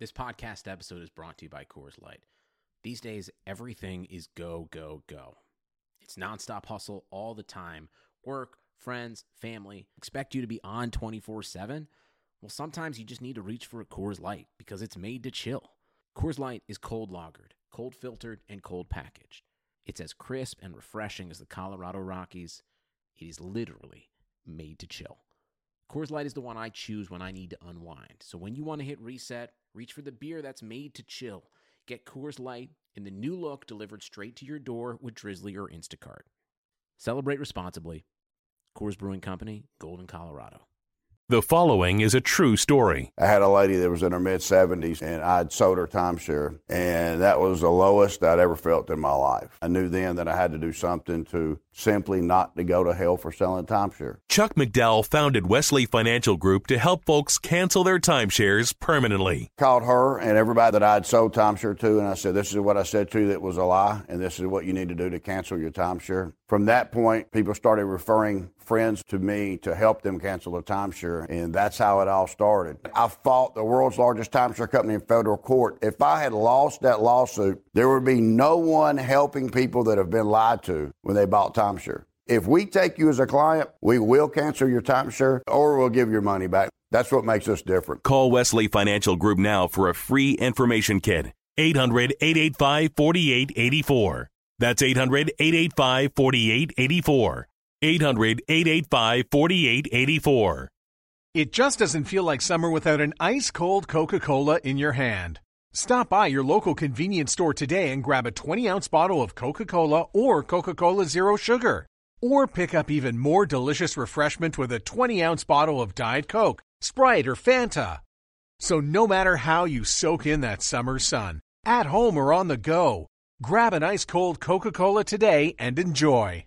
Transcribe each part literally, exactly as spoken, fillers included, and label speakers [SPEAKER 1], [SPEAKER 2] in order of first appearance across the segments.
[SPEAKER 1] This podcast episode is brought to you by Coors Light. These days, everything is go, go, go. It's nonstop hustle all the time. Work, friends, family, expect you to be on twenty-four seven. Well, sometimes you just need to reach for a Coors Light because it's made to chill. Coors Light is cold lagered, cold filtered, and cold packaged. It's as crisp and refreshing as the Colorado Rockies. It is literally made to chill. Coors Light is the one I choose when I need to unwind. So when you want to hit reset, reach for the beer that's made to chill. Get Coors Light in the new look delivered straight to your door with Drizzly or Instacart. Celebrate responsibly. Coors Brewing Company, Golden, Colorado.
[SPEAKER 2] The following is a true story.
[SPEAKER 3] I had a lady that was in her mid-seventies, and I'd sold her timeshare, and that was the lowest I'd ever felt in my life. I knew then that I had to do something to simply not to go to hell for selling timeshare.
[SPEAKER 2] Chuck McDowell founded Wesley Financial Group to help folks cancel their timeshares permanently.
[SPEAKER 3] Called her and everybody that I'd sold timeshare to, and I said, this is what I said to you that was a lie, and this is what you need to do to cancel your timeshare. From that point, people started referring friends to me to help them cancel their timeshare, and that's how it all started. I fought the world's largest timeshare company in federal court. If I had lost that lawsuit, there would be no one helping people that have been lied to when they bought timeshare. If we take you as a client, we will cancel your timeshare or we'll give your money back. That's what makes us different.
[SPEAKER 2] Call Wesley Financial Group now for a free information kit. eight hundred, eight eight five, four eight eight four. That's eight hundred, eight eight five, four eight eight four. eight hundred, eight eight five, four eight eight four.
[SPEAKER 4] It just doesn't feel like summer without an ice-cold Coca-Cola in your hand. Stop by your local convenience store today and grab a twenty-ounce bottle of Coca-Cola or Coca-Cola Zero Sugar. Or pick up even more delicious refreshment with a twenty-ounce bottle of Diet Coke, Sprite, or Fanta. So no matter how you soak in that summer sun, at home or on the go, grab an ice-cold Coca-Cola today and enjoy.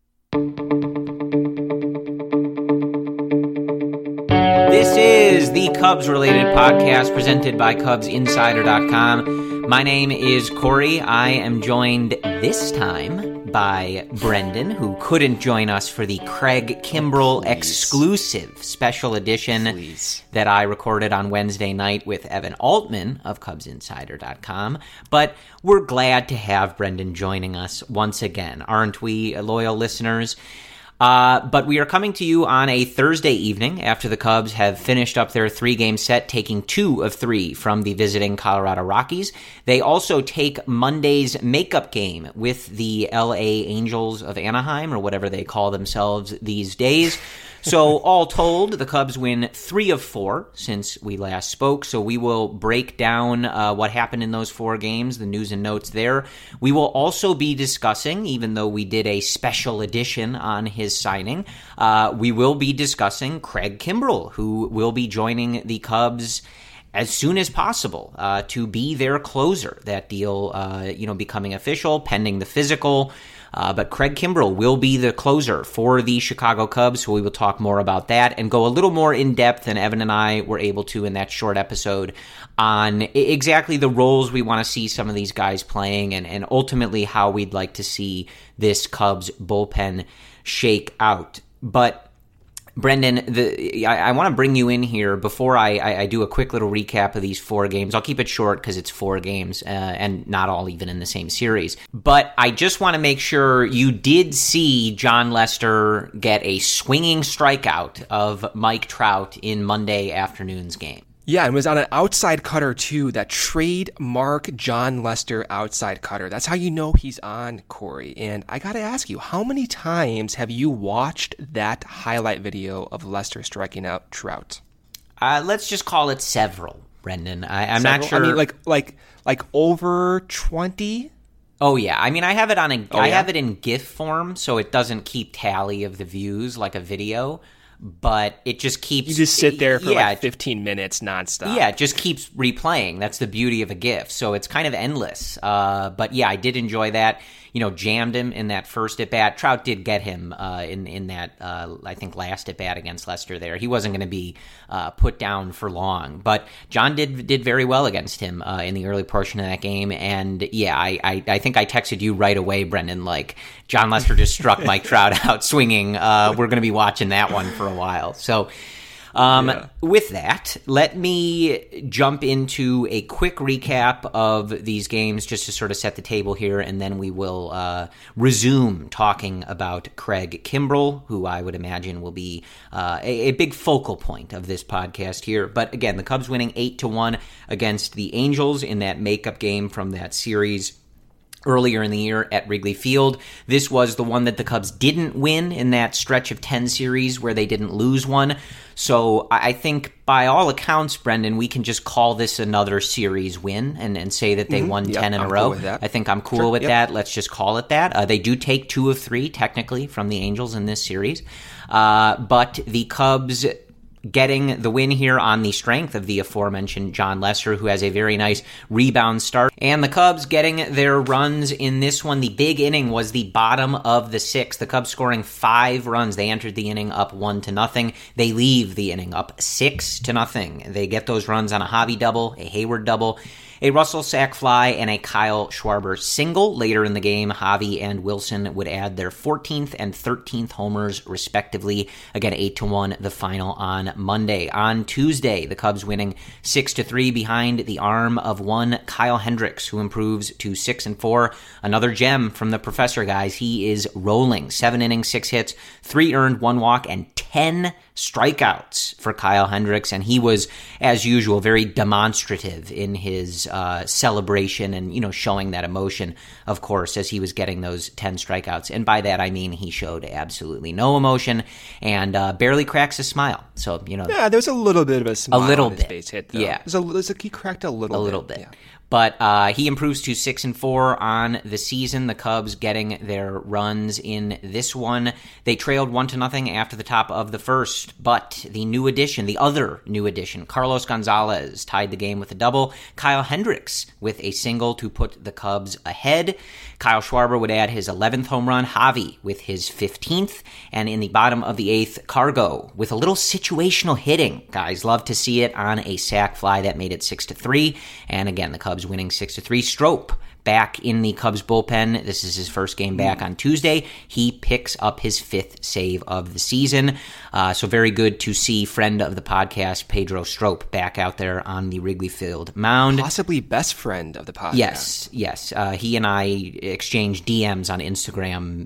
[SPEAKER 5] This is the Cubs-related podcast presented by Cubs Insider dot com. My name is Corey. I am joined this time by Brendan, who couldn't join us for the Craig Kimbrell Please. exclusive special edition Please. that I recorded on Wednesday night with Evan Altman of Cubs Insider dot com. But we're glad to have Brendan joining us once again, aren't we, loyal listeners? Uh, but we are coming to you on a Thursday evening after the Cubs have finished up their three-game set, taking two of three from the visiting Colorado Rockies. They also take Monday's makeup game with the L A Angels of Anaheim, or whatever they call themselves these days. So all told, the Cubs win three of four since we last spoke. So we will break down uh, what happened in those four games, the news and notes there. We will also be discussing, even though we did a special edition on his signing, uh, we will be discussing Craig Kimbrell, who will be joining the Cubs as soon as possible uh, to be their closer. That deal, uh, you know, becoming official, pending the physical. Uh, but Craig Kimbrell will be the closer for the Chicago Cubs, so we will talk more about that and go a little more in-depth than Evan and I were able to in that short episode on exactly the roles we want to see some of these guys playing and, and ultimately how we'd like to see this Cubs bullpen shake out. But Brendan, the, I, I want to bring you in here before I, I, I do a quick little recap of these four games. I'll keep it short because it's four games uh, and not all even in the same series. But I just want to make sure you did see Jon Lester get a swinging strikeout of Mike Trout in Monday afternoon's game.
[SPEAKER 6] Yeah, it was on an outside cutter, too, that trademark Jon Lester outside cutter. That's how you know he's on, Corey. And I got to ask you, how many times have you watched that highlight video of Lester striking out Trout?
[SPEAKER 5] Uh, let's just call it several, Brendan. I, I'm
[SPEAKER 6] several?
[SPEAKER 5] not sure.
[SPEAKER 6] I mean, like, like, like over twenty?
[SPEAKER 5] Oh, yeah. I mean, I have it on a,
[SPEAKER 6] oh,
[SPEAKER 5] I
[SPEAKER 6] yeah?
[SPEAKER 5] have it in GIF form, so it doesn't keep tally of the views like a video. But it just keeps...
[SPEAKER 6] You just sit there for
[SPEAKER 5] yeah,
[SPEAKER 6] like fifteen minutes nonstop.
[SPEAKER 5] Yeah, it just keeps replaying. That's the beauty of a GIF. So it's kind of endless. Uh, but yeah, I did enjoy that. You know, jammed him in that first at-bat. Trout did get him uh, in, in that, uh, I think, last at-bat against Lester there. He wasn't going to be uh, put down for long. But John did did very well against him uh, in the early portion of that game. And yeah, I, I, I think I texted you right away, Brendan, like, Jon Lester just struck Mike Trout out swinging. Uh, we're going to be watching that one for a while. So... Um,
[SPEAKER 6] Yeah.
[SPEAKER 5] With that, let me jump into a quick recap of these games just to sort of set the table here, and then we will uh, resume talking about Craig Kimbrell, who I would imagine will be uh, a, a big focal point of this podcast here. But again, the Cubs winning eight to one against the Angels in that makeup game from that series earlier in the year at Wrigley Field. This was the one that the Cubs didn't win in that stretch of ten series where they didn't lose one. So I think by all accounts, Brendan, we can just call this another series win and, and say that they mm-hmm. won yep, ten in
[SPEAKER 6] I'm
[SPEAKER 5] a row.
[SPEAKER 6] Cool with that.
[SPEAKER 5] I think I'm cool sure, with yep. that. Let's just call it that. Uh, they do take two of three, technically, from the Angels in this series. Uh, but the Cubs getting the win here on the strength of the aforementioned Jon Lester, who has a very nice rebound start. And the Cubs getting their runs in this one. The big inning was the bottom of the sixth. The Cubs scoring five runs. They entered the inning up one to nothing. They leave the inning up six to nothing. They get those runs on a Javi double, a Hayward double, a Russell sac fly, and a Kyle Schwarber single. Later in the game, Javi and Wilson would add their fourteenth and thirteenth homers, respectively. Again, eight to one, the final on Monday. On Tuesday, the Cubs winning six to three behind the arm of one Kyle Hendricks, who improves to six and four. Another gem from the professor, guys. He is rolling. Seven innings, six hits, three earned, one walk, and ten strikeouts for Kyle Hendricks, and he was, as usual, very demonstrative in his uh, celebration and, you know, showing that emotion, of course, as he was getting those ten strikeouts. And by that, I mean he showed absolutely no emotion and uh, barely cracks a smile. So, you know.
[SPEAKER 6] Yeah, there's a little bit of a smile
[SPEAKER 5] a little
[SPEAKER 6] on his
[SPEAKER 5] bit.
[SPEAKER 6] base hit, though.
[SPEAKER 5] Yeah.
[SPEAKER 6] There's a, there's a, he cracked a little
[SPEAKER 5] a
[SPEAKER 6] bit.
[SPEAKER 5] little bit.
[SPEAKER 6] Yeah.
[SPEAKER 5] But uh, he improves to six and four on the season. The Cubs getting their runs in this one. They trailed one to nothing after the top of the first. But the new addition, the other new addition, Carlos Gonzalez tied the game with a double. Kyle Hendricks with a single to put the Cubs ahead. Kyle Schwarber would add his eleventh home run. Javi with his fifteenth. And in the bottom of the eighth, Cargo with a little situational hitting. Guys, love to see it on a sac fly that made it six to three. And again, the Cubs winning six to three. Strop back in the Cubs bullpen. This is his first game back on Tuesday. He picks up his fifth save of the season. Uh, so very good to see friend of the podcast, Pedro Strop, back out there on the Wrigley Field mound.
[SPEAKER 6] Possibly best friend of the podcast.
[SPEAKER 5] Yes, yes. Uh, he and I exchange D Ms on Instagram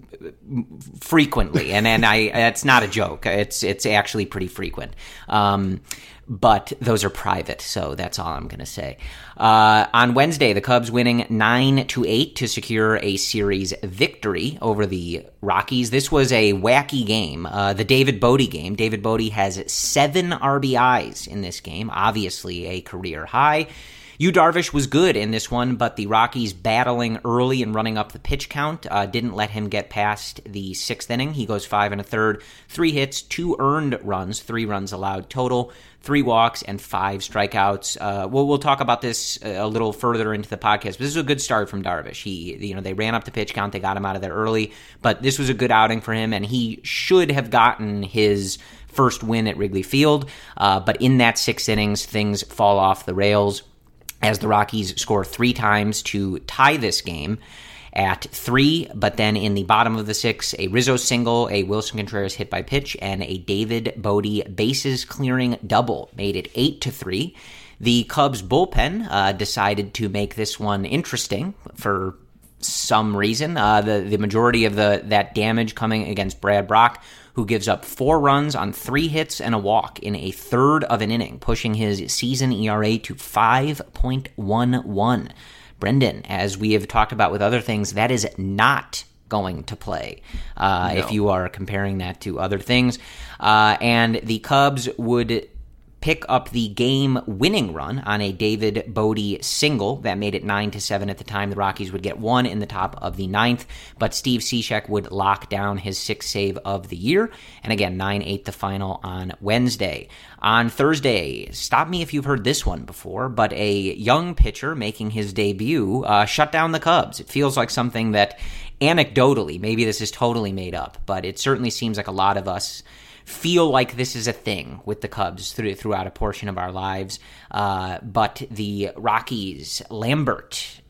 [SPEAKER 5] frequently, and and I that's not a joke. It's it's actually pretty frequent. Um, but those are private, so that's all I'm going to say. Uh, on Wednesday, the Cubs winning nine to eight to secure a series victory over the Rockies. This was a wacky game, uh, the David Bodie game. David Bodie has seven R B Is in this game, obviously a career high. Yu Darvish was good in this one, but the Rockies battling early and running up the pitch count uh, didn't let him get past the sixth inning. He goes five and a third, three hits, two earned runs, three runs allowed total, three walks, and five strikeouts. Uh, we'll, we'll talk about this a little further into the podcast, but this is a good start from Darvish. He, you know, they ran up the pitch count, they got him out of there early, but this was a good outing for him, and he should have gotten his first win at Wrigley Field. Uh, but in that six innings, things fall off the rails as the Rockies score three times to tie this game at three, but then in the bottom of the sixth, a Rizzo single, a Wilson Contreras hit by pitch, and a David Bodie bases clearing double made it eight to three. The Cubs bullpen uh, decided to make this one interesting for some reason. Uh, the the majority of the that damage coming against Brad Brach, who gives up four runs on three hits and a walk in a third of an inning, pushing his season E R A to five point one one. Brendan, as we have talked about with other things, that is not going to play uh, no. if you are comparing that to other things. Uh, and the Cubs would pick up the game-winning run on a David Bodie single that made it nine to seven at the time. The Rockies would get one in the top of the ninth, but Steve Cishek would lock down his sixth save of the year. And again, nine eight the final on Wednesday. On Thursday, stop me if you've heard this one before, but a young pitcher making his debut uh, shut down the Cubs. It feels like something that anecdotally, maybe this is totally made up, but it certainly seems like a lot of us feel like this is a thing with the Cubs through, throughout a portion of our lives. Uh, but the Rockies, Lambert,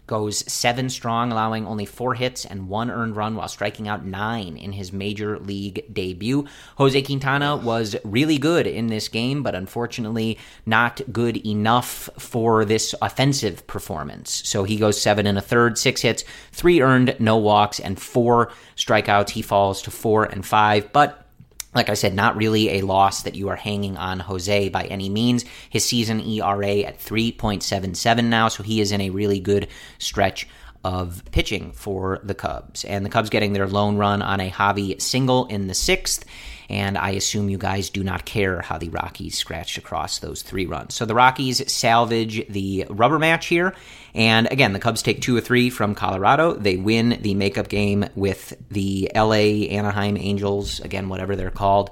[SPEAKER 5] goes seven strong, allowing only four hits and one earned run while striking out nine in his major league debut. Jose Quintana was really good in this game, but unfortunately not good enough for this offensive performance. So he goes seven and a third, six hits, three earned, no walks, and four strikeouts. He falls to four and five, but like I said, not really a loss that you are hanging on Jose by any means. His season E R A at three point seven seven now, so he is in a really good stretch of pitching for the Cubs. And the Cubs getting their lone run on a Javi single in the sixth. And I assume you guys do not care how the Rockies scratched across those three runs. So the Rockies salvage the rubber match here. And again, the Cubs take two or three from Colorado. They win the makeup game with the L A Anaheim Angels, again, whatever they're called.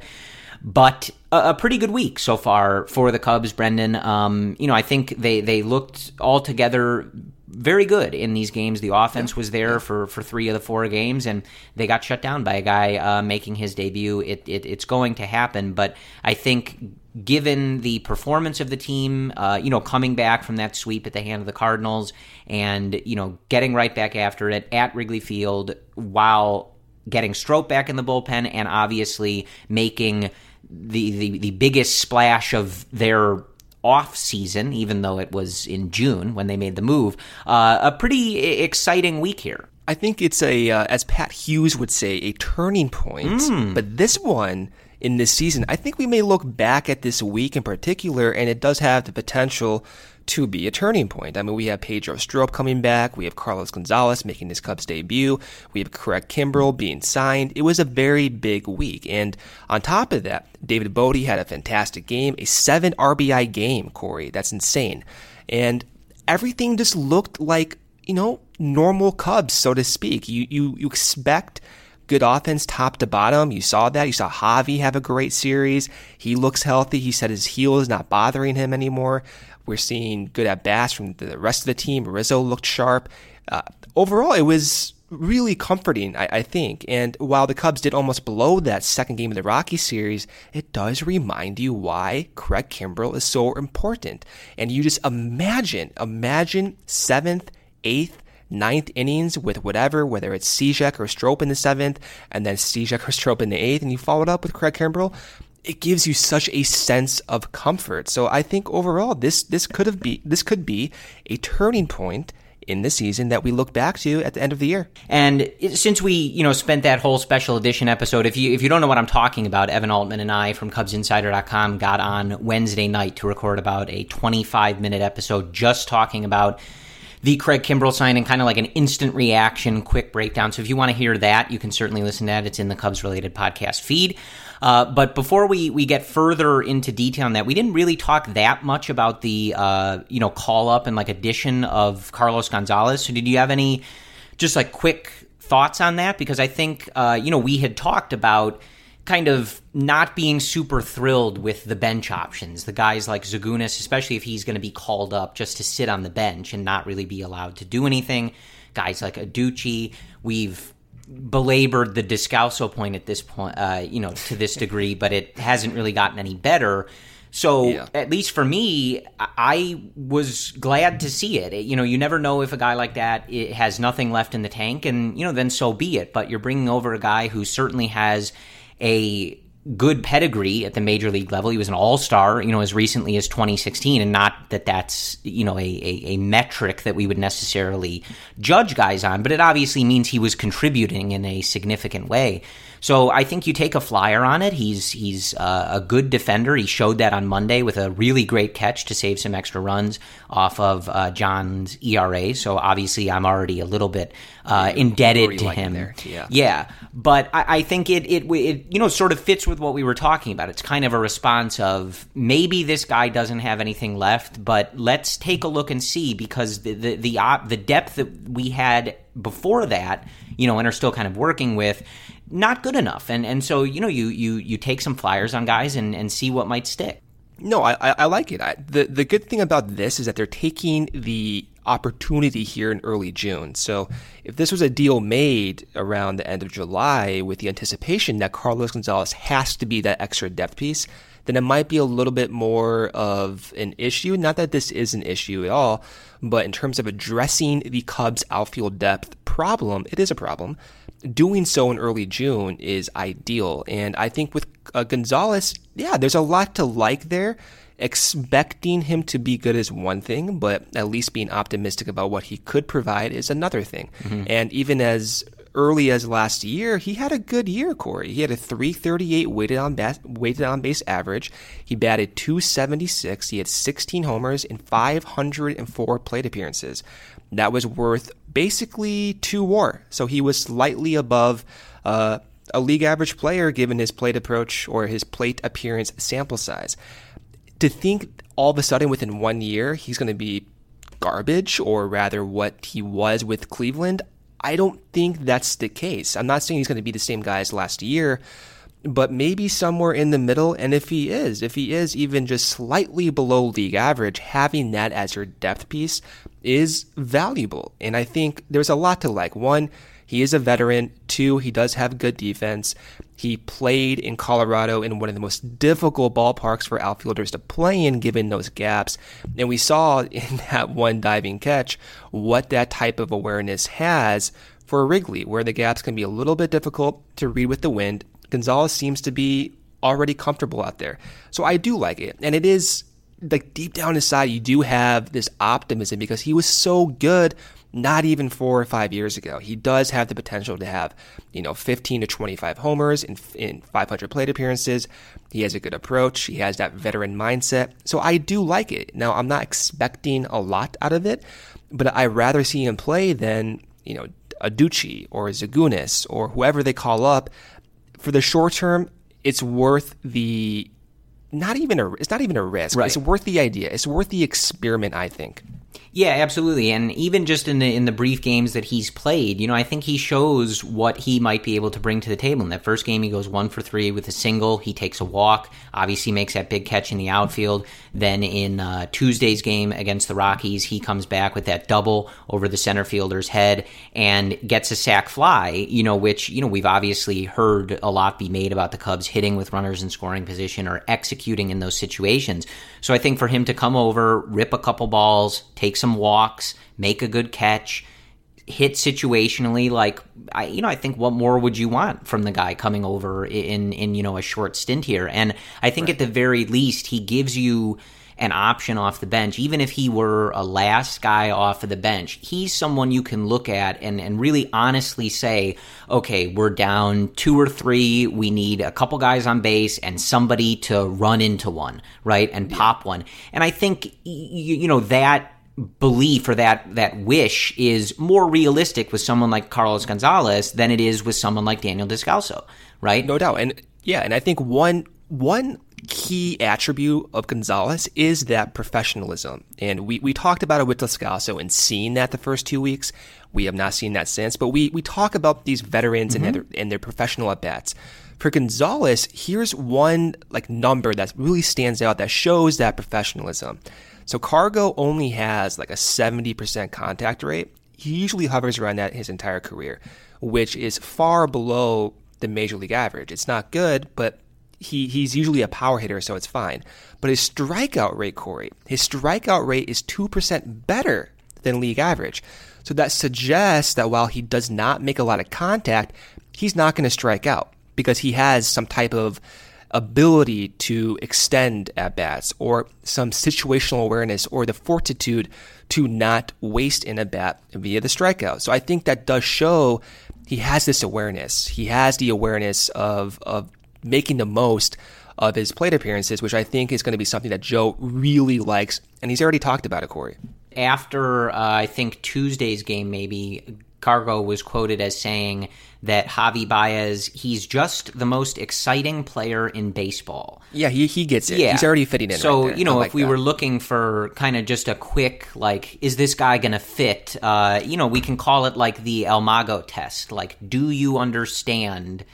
[SPEAKER 5] But a, a pretty good week so far for the Cubs, Brendan. Um, you know, I think they, they looked altogether very good in these games. The offense was there for, for three of the four games, and they got shut down by a guy uh, making his debut. It, it it's going to happen, but I think given the performance of the team, uh, you know, coming back from that sweep at the hand of the Cardinals and, you know, getting right back after it at Wrigley Field while getting Strop back in the bullpen and obviously making the, the, the biggest splash of their off season, even though it was in June when they made the move, uh, a pretty exciting week here.
[SPEAKER 6] I think it's a, uh, as Pat Hughes would say, a turning point. Mm. But this one in this season, I think we may look back at this week in particular, and it does have the potential to be a turning point. I mean, we have Pedro Strop coming back. We have Carlos Gonzalez making his Cubs debut. We have Craig Kimbrel being signed. It was a very big week. And on top of that, David Bote had a fantastic game, a seven R B I game, Corey. That's insane. And everything just looked like, you know, normal Cubs, so to speak. You, you, you expect good offense top to bottom. You saw that. You saw Javi have a great series. He looks healthy. He said his heel is not bothering him anymore. We're seeing good at-bats from the rest of the team. Rizzo looked sharp. Uh, overall, it was really comforting, I, I think. And while the Cubs did almost blow that second game of the Rockies series, it does remind you why Craig Kimbrel is so important. And you just imagine, imagine seventh, eighth, ninth innings with whatever, whether it's Cishek or Strop in the seventh, and then Cishek or Strop in the eighth, and you followed up with Craig Kimbrel. It gives you such a sense of comfort. So I think overall, this this could have be this could be a turning point in the season that we look back to at the end of the year.
[SPEAKER 5] And since we, you know, spent that whole special edition episode, if you if you don't know what I'm talking about, Evan Altman and I from Cubs Insider dot com got on Wednesday night to record about a twenty-five minute episode just talking about the Craig Kimbrel signing, kind of like an instant reaction, quick breakdown. So if you want to hear that, you can certainly listen to that. It's in the Cubs-related podcast feed. Uh, but before we, we get further into detail on that, we didn't really talk that much about the uh, you know call-up and like addition of Carlos Gonzalez. So did you have any just like quick thoughts on that? Because I think uh, you know we had talked about kind of not being super thrilled with the bench options. The guys like Zagunis, especially if he's going to be called up just to sit on the bench and not really be allowed to do anything. Guys like Aducci, we've belabored the Descalso point at this point, uh, you know, to this degree, but it hasn't really gotten any better. So yeah. At least for me, I was glad to see it. You know, you never know if a guy like that it has nothing left in the tank, and, you know, then so be it. But you're bringing over a guy who certainly has a good pedigree at the major league level. He was an all-star, you know, as recently as twenty sixteen, and not that that's, you know, a, a, a metric that we would necessarily judge guys on, but it obviously means he was contributing in a significant way. So I think you take a flyer on it. He's he's uh, a good defender. He showed that on Monday with a really great catch to save some extra runs off of uh, John's E R A. So obviously I'm already a little bit uh, indebted to him. There. Yeah, yeah. But I, I think it, it it you know sort of fits with what we were talking about. It's kind of a response of maybe this guy doesn't have anything left, but let's take a look and see, because the the the, op, the depth that we had before that, you know, and are still kind of working with, not good enough. And and so, you know, you you you take some flyers on guys and, and see what might stick.
[SPEAKER 6] No, I I like it. I, the the good thing about this is that they're taking the opportunity here in early June. So if this was a deal made around the end of July with the anticipation that Carlos Gonzalez has to be that extra depth piece, then it might be a little bit more of an issue. Not that this is an issue at all, but in terms of addressing the Cubs' outfield depth problem, it is a problem. Doing so in early June is ideal. And I think with uh, Gonzalez, yeah, there's a lot to like there. Expecting him to be good is one thing, but at least being optimistic about what he could provide is another thing. Mm-hmm. And even as early as last year, he had a good year, Corey. He had a three thirty-eight weighted on base, weighted on base average. He batted two seventy-six. He had sixteen homers in five hundred four plate appearances. That was worth basically two WAR. So he was slightly above uh, a league average player given his plate approach or his plate appearance sample size. To think all of a sudden within one year he's going to be garbage, or rather what he was with Cleveland, I don't think that's the case. I'm not saying he's going to be the same guy as last year, but maybe somewhere in the middle. And if he is, if he is even just slightly below league average, having that as your depth piece is valuable. And I think there's a lot to like. One, he is a veteran. Two, he does have good defense. He played in Colorado in one of the most difficult ballparks for outfielders to play in, given those gaps. And we saw in that one diving catch what that type of awareness has for Wrigley, where the gaps can be a little bit difficult to read with the wind. Gonzalez seems to be already comfortable out there. So I do like it. And it is, like, deep down inside, you do have this optimism because he was so good not even four or five years ago. He does have the potential to have, you know, fifteen to twenty-five homers in, in five hundred plate appearances. He has a good approach. He has that veteran mindset. So I do like it. Now, I'm not expecting a lot out of it, but I'd rather see him play than, you know, Aducci or Zagunis or whoever they call up. For the short term, it's worth the, not even a, it's not even a risk. Right. It's worth the idea. It's worth the experiment, I think.
[SPEAKER 5] Yeah, absolutely. And even just in the in the brief games that he's played, you know, I think he shows what he might be able to bring to the table. In that first game, he goes one for three with a single. He takes a walk, obviously makes that big catch in the outfield. Then in uh, Tuesday's game against the Rockies, he comes back with that double over the center fielder's head and gets a sac fly, you know, which, you know, we've obviously heard a lot be made about the Cubs hitting with runners in scoring position or executing in those situations. So I think for him to come over, rip a couple balls, take some walks, make a good catch, hit situationally, like, I, you know, I think what more would you want from the guy coming over in, in, you know, a short stint here? And I think right. at the very least, he gives you an option off the bench. Even if he were a last guy off of the bench, he's someone you can look at and, and really honestly say, okay, we're down two or three. We need a couple guys on base and somebody to run into one, right? And yeah. pop one. And I think, you, you know, that belief or that that wish is more realistic with someone like Carlos Gonzalez than it is with someone like Daniel Descalso, right?
[SPEAKER 6] No doubt. And yeah, and I think one one key attribute of Gonzalez is that professionalism. And we, we talked about it with Descalso and seeing that the first two weeks. We have not seen that since. But we, we talk about these veterans mm-hmm. and, their, and their professional at-bats. For Gonzalez, here's one like number that really stands out that shows that professionalism. So Cargo only has like a seventy percent contact rate. He usually hovers around that his entire career, which is far below the major league average. It's not good, but he he's usually a power hitter, so it's fine. But his strikeout rate, Corey, his strikeout rate is two percent better than league average. So that suggests that while he does not make a lot of contact, he's not going to strike out because he has some type of ability to extend at-bats or some situational awareness or the fortitude to not waste an at-bat via the strikeout. So I think that does show he has this awareness. He has the awareness of of making the most of his plate appearances, which I think is going to be something that Joe really likes, and he's already talked about it, Corey.
[SPEAKER 5] After, uh, I think, Tuesday's game maybe, Cargo was quoted as saying that Javi Baez, he's just the most exciting player in baseball.
[SPEAKER 6] Yeah, he he gets it. Yeah. He's already fitting in.
[SPEAKER 5] So,
[SPEAKER 6] right there.
[SPEAKER 5] you know,
[SPEAKER 6] like
[SPEAKER 5] if we
[SPEAKER 6] that.
[SPEAKER 5] were looking for kind of just a quick, like, is this guy going to fit? Uh, you know, we can call it like the El Mago test. Like, do you understand,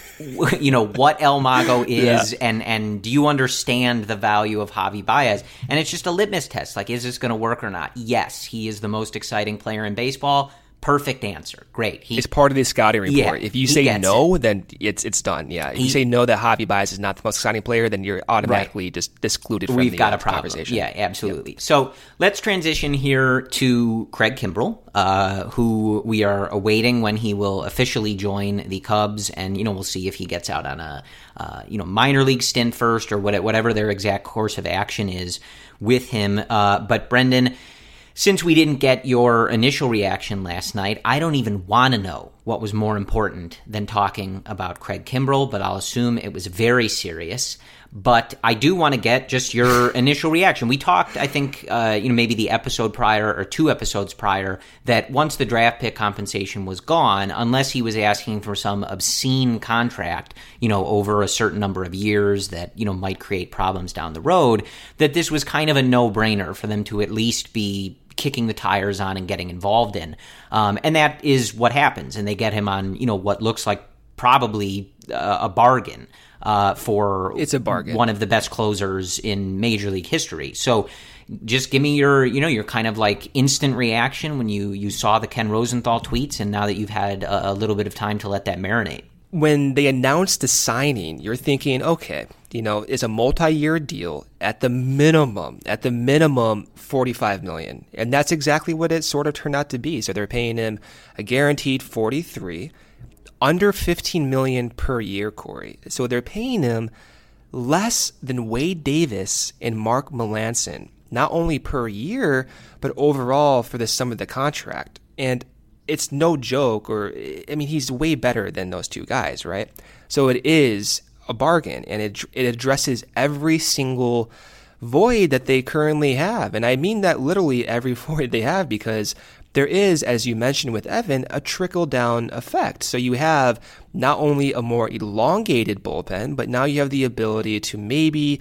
[SPEAKER 5] you know, what El Mago is, yeah. and, and do you understand the value of Javi Baez? And it's just a litmus test. Like, is this going to work or not? Yes, he is the most exciting player in baseball. Perfect answer. Great.
[SPEAKER 6] He, it's part of the scouting report.
[SPEAKER 5] Yeah,
[SPEAKER 6] if you say no,
[SPEAKER 5] it.
[SPEAKER 6] then it's it's done. Yeah. If
[SPEAKER 5] he,
[SPEAKER 6] you say no that Javi Baez is not the most exciting player, then you're automatically right. just excluded from
[SPEAKER 5] We've
[SPEAKER 6] the
[SPEAKER 5] got
[SPEAKER 6] uh,
[SPEAKER 5] a problem.
[SPEAKER 6] conversation.
[SPEAKER 5] Yeah, absolutely. Yep. So let's transition here to Craig Kimbrel, uh, who we are awaiting when he will officially join the Cubs, and you know we'll see if he gets out on a uh, you know minor league stint first or whatever their exact course of action is with him. Uh, but Brendan, since we didn't get your initial reaction last night, I don't even want to know what was more important than talking about Craig Kimbrel, but I'll assume it was very serious. But I do want to get just your initial reaction. We talked, I think, uh, you know, maybe the episode prior or two episodes prior, that once the draft pick compensation was gone, unless he was asking for some obscene contract, you know, over a certain number of years that, you know, might create problems down the road, that this was kind of a no-brainer for them to at least be kicking the tires on and getting involved in. Um, and that is what happens. And they get him on, you know, what looks like probably uh, a bargain. Uh, for
[SPEAKER 6] it's a bargain.
[SPEAKER 5] One of the best closers in Major League history. So just give me your, you know, your kind of like instant reaction when you, you saw the Ken Rosenthal tweets and now that you've had a, a little bit of time to let that marinate.
[SPEAKER 6] When they announced the signing, you're thinking, okay, you know, it's a multi-year deal at the minimum, at the minimum forty-five million dollars. And that's exactly what it sort of turned out to be. So they're paying him a guaranteed forty-three under fifteen million dollars per year, Corey. So they're paying him less than Wade Davis and Mark Melancon, not only per year, but overall for the sum of the contract. And it's no joke, or, I mean, he's way better than those two guys, right? So it is a bargain, and it it addresses every single void that they currently have. And I mean that literally every void they have, because there is, as you mentioned with Evan, a trickle-down effect. So you have not only a more elongated bullpen, but now you have the ability to maybe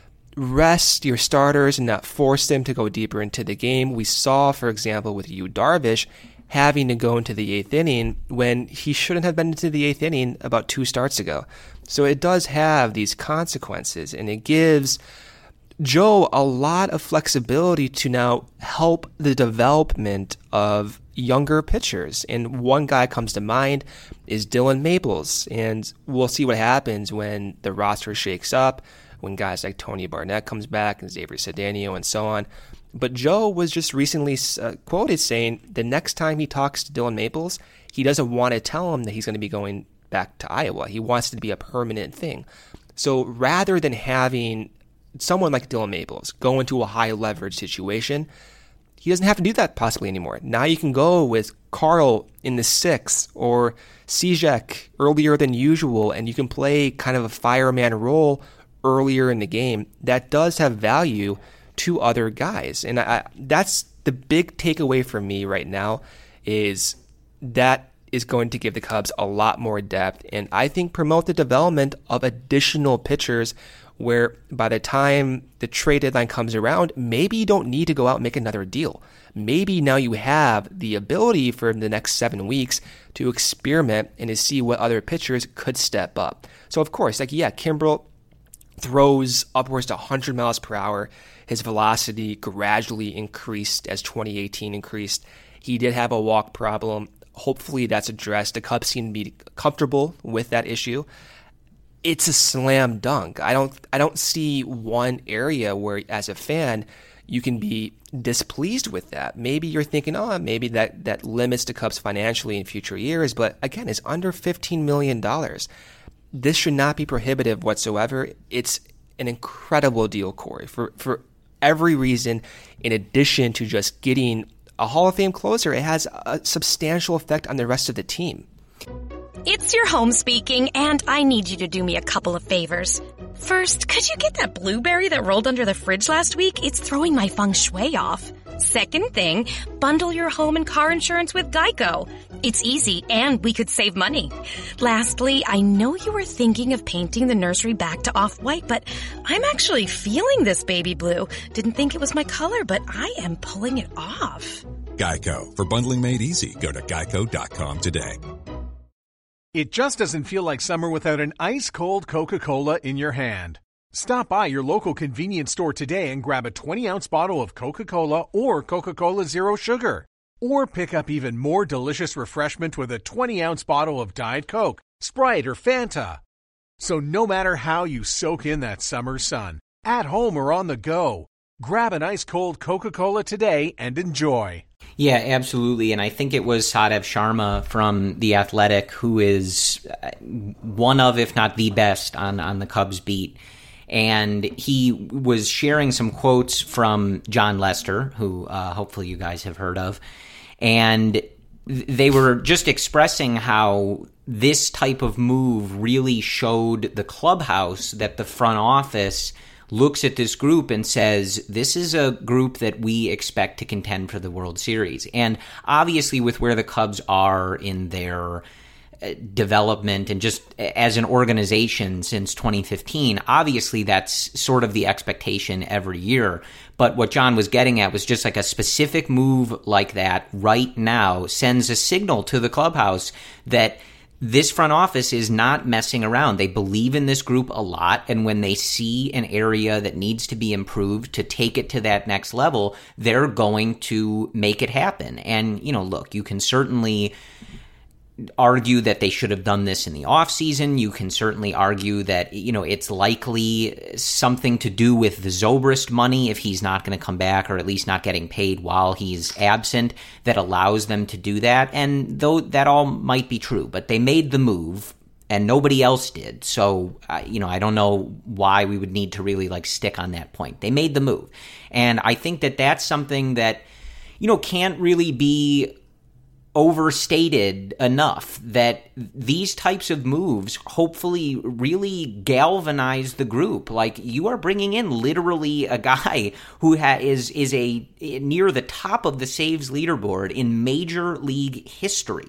[SPEAKER 6] rest your starters and not force them to go deeper into the game. We saw, for example, with Yu Darvish having to go into the eighth inning when he shouldn't have been into the eighth inning about two starts ago. So it does have these consequences, and it gives Joe a lot of flexibility to now help the development of younger pitchers. And one guy comes to mind is Dylan Maples. And we'll see what happens when the roster shakes up, when guys like Tony Barnett comes back and Xavier Cedeno and so on. But Joe was just recently uh, quoted saying the next time he talks to Dylan Maples, he doesn't want to tell him that he's going to be going back to Iowa. He wants it to be a permanent thing. So rather than having someone like Dylan Maples go into a high leverage situation, he doesn't have to do that possibly anymore. Now you can go with Carl in the sixth or Cishek earlier than usual, and you can play kind of a fireman role earlier in the game. That does have value to other guys. And I, that's the big takeaway for me right now, is that is going to give the Cubs a lot more depth, and I think promote the development of additional pitchers where by the time the trade deadline comes around, maybe you don't need to go out and make another deal. Maybe now you have the ability for the next seven weeks to experiment and to see what other pitchers could step up. So of course, like, yeah, Kimbrel throws upwards to one hundred miles per hour. His velocity gradually increased as twenty eighteen increased. He did have a walk problem. Hopefully that's addressed. The Cubs seem to be comfortable with that issue. It's a slam dunk. I don't I don't see one area where, as a fan, you can be displeased with that. Maybe you're thinking, oh, maybe that, that limits the Cubs financially in future years. But again, it's under fifteen million dollars. This should not be prohibitive whatsoever. It's an incredible deal, Corey, for, for every reason. In addition to just getting a Hall of Fame closer, it has a substantial effect on the rest of the team.
[SPEAKER 7] It's your home speaking, and I need you to do me a couple of favors. First, could you get that blueberry that rolled under the fridge last week? It's throwing my feng shui off. Second thing, bundle your home and car insurance with Geico. It's easy, and we could save money. Lastly, I know you were thinking of painting the nursery back to off-white, but I'm actually feeling this baby blue. Didn't think it was my color, but I am pulling it off.
[SPEAKER 8] Geico. For bundling made easy, go to geico dot com today.
[SPEAKER 4] It just doesn't feel like summer without an ice-cold Coca-Cola in your hand. Stop by your local convenience store today and grab a twenty-ounce bottle of Coca-Cola or Coca-Cola Zero Sugar. Or pick up even more delicious refreshment with a twenty-ounce bottle of Diet Coke, Sprite, or Fanta. So no matter how you soak in that summer sun, at home or on the go, grab an ice-cold Coca-Cola today and enjoy.
[SPEAKER 5] Yeah, absolutely. And I think it was Sadev Sharma from The Athletic who is one of, if not the best, on, on the Cubs beat. And he was sharing some quotes from Jon Lester, who uh, hopefully you guys have heard of. And they were just expressing how this type of move really showed the clubhouse that the front office looks at this group and says, this is a group that we expect to contend for the World Series. And obviously with where the Cubs are in their development and just as an organization since twenty fifteen, obviously that's sort of the expectation every year. But what John was getting at was just like a specific move like that right now sends a signal to the clubhouse that this front office is not messing around. They believe in this group a lot, and when they see an area that needs to be improved to take it to that next level, they're going to make it happen. And, you know, look, you can certainly argue that they should have done this in the offseason. You can certainly argue that, you know, it's likely something to do with the Zobrist money if he's not going to come back, or at least not getting paid while he's absent, that allows them to do that. And though that all might be true, but they made the move and nobody else did. So, uh, you know, I don't know why we would need to really like stick on that point. They made the move. And I think that that's something that, you know, can't really be overstated enough, that these types of moves hopefully really galvanize the group. Like, you are bringing in literally a guy who ha- is is a near the top of the saves leaderboard in Major League history.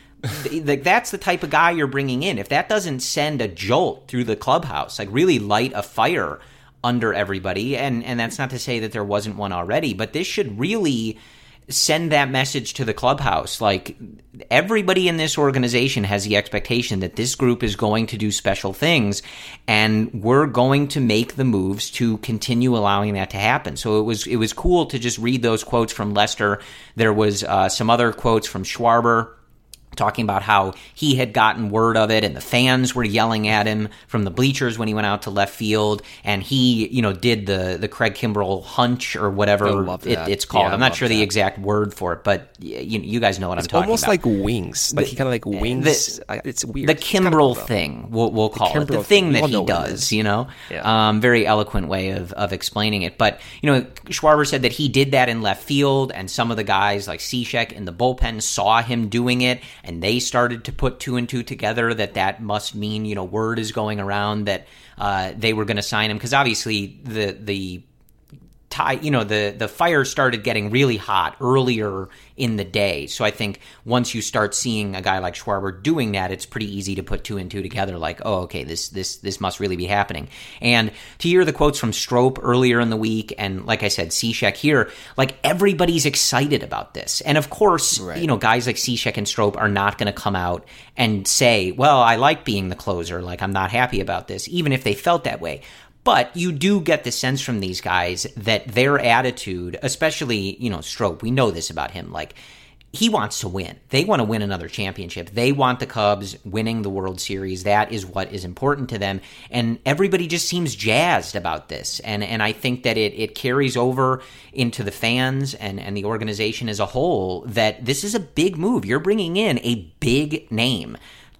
[SPEAKER 5] Like, that's the type of guy you're bringing in. If that doesn't send a jolt through the clubhouse, like really light a fire under everybody, and and that's not to say that there wasn't one already, but this should really send that message to the clubhouse. Like, everybody in this organization has the expectation that this group is going to do special things, and we're going to make the moves to continue allowing that to happen. So it was it was cool to just read those quotes from Lester. There was uh, some other quotes from Schwarber, talking about how he had gotten word of it and the fans were yelling at him from the bleachers when he went out to left field, and he, you know, did the the Craig Kimbrell hunch or whatever it, it's called. Yeah, I'm not sure that. the exact word for it, but you, you guys know what
[SPEAKER 6] it's
[SPEAKER 5] I'm talking about.
[SPEAKER 6] It's almost like wings. Like, he kind of like wings. The, it's weird.
[SPEAKER 5] The Kimbrell kind of thing, we'll, we'll call the it. The thing, thing that he does, you know? Yeah. Um, very eloquent way of, of explaining it. But, you know, Schwarber said that he did that in left field, and some of the guys like Cishek in the bullpen saw him doing it, and they started to put two and two together, that that must mean, you know, word is going around that uh, they were going to sign him, because obviously the the tie, you know, the the fire started getting really hot earlier in the day. So I think once you start seeing a guy like Schwarber doing that, it's pretty easy to put two and two together. Like, oh, okay, this this this must really be happening. And to hear the quotes from Strop earlier in the week, and like I said, Cishek here, like, everybody's excited about this. And of course, right, you know, guys like Cishek and Strop are not going to come out and say, well, I like being the closer, like, I'm not happy about this, even if they felt that way. But you do get the sense from these guys that their attitude, especially, you know, Strop, we know this about him, like, he wants to win. They want to win another championship. They want the Cubs winning the World Series. That is what is important to them. And everybody just seems jazzed about this. And and I think that it, it carries over into the fans and, and the organization as a whole, that this is a big move. You're bringing in a big name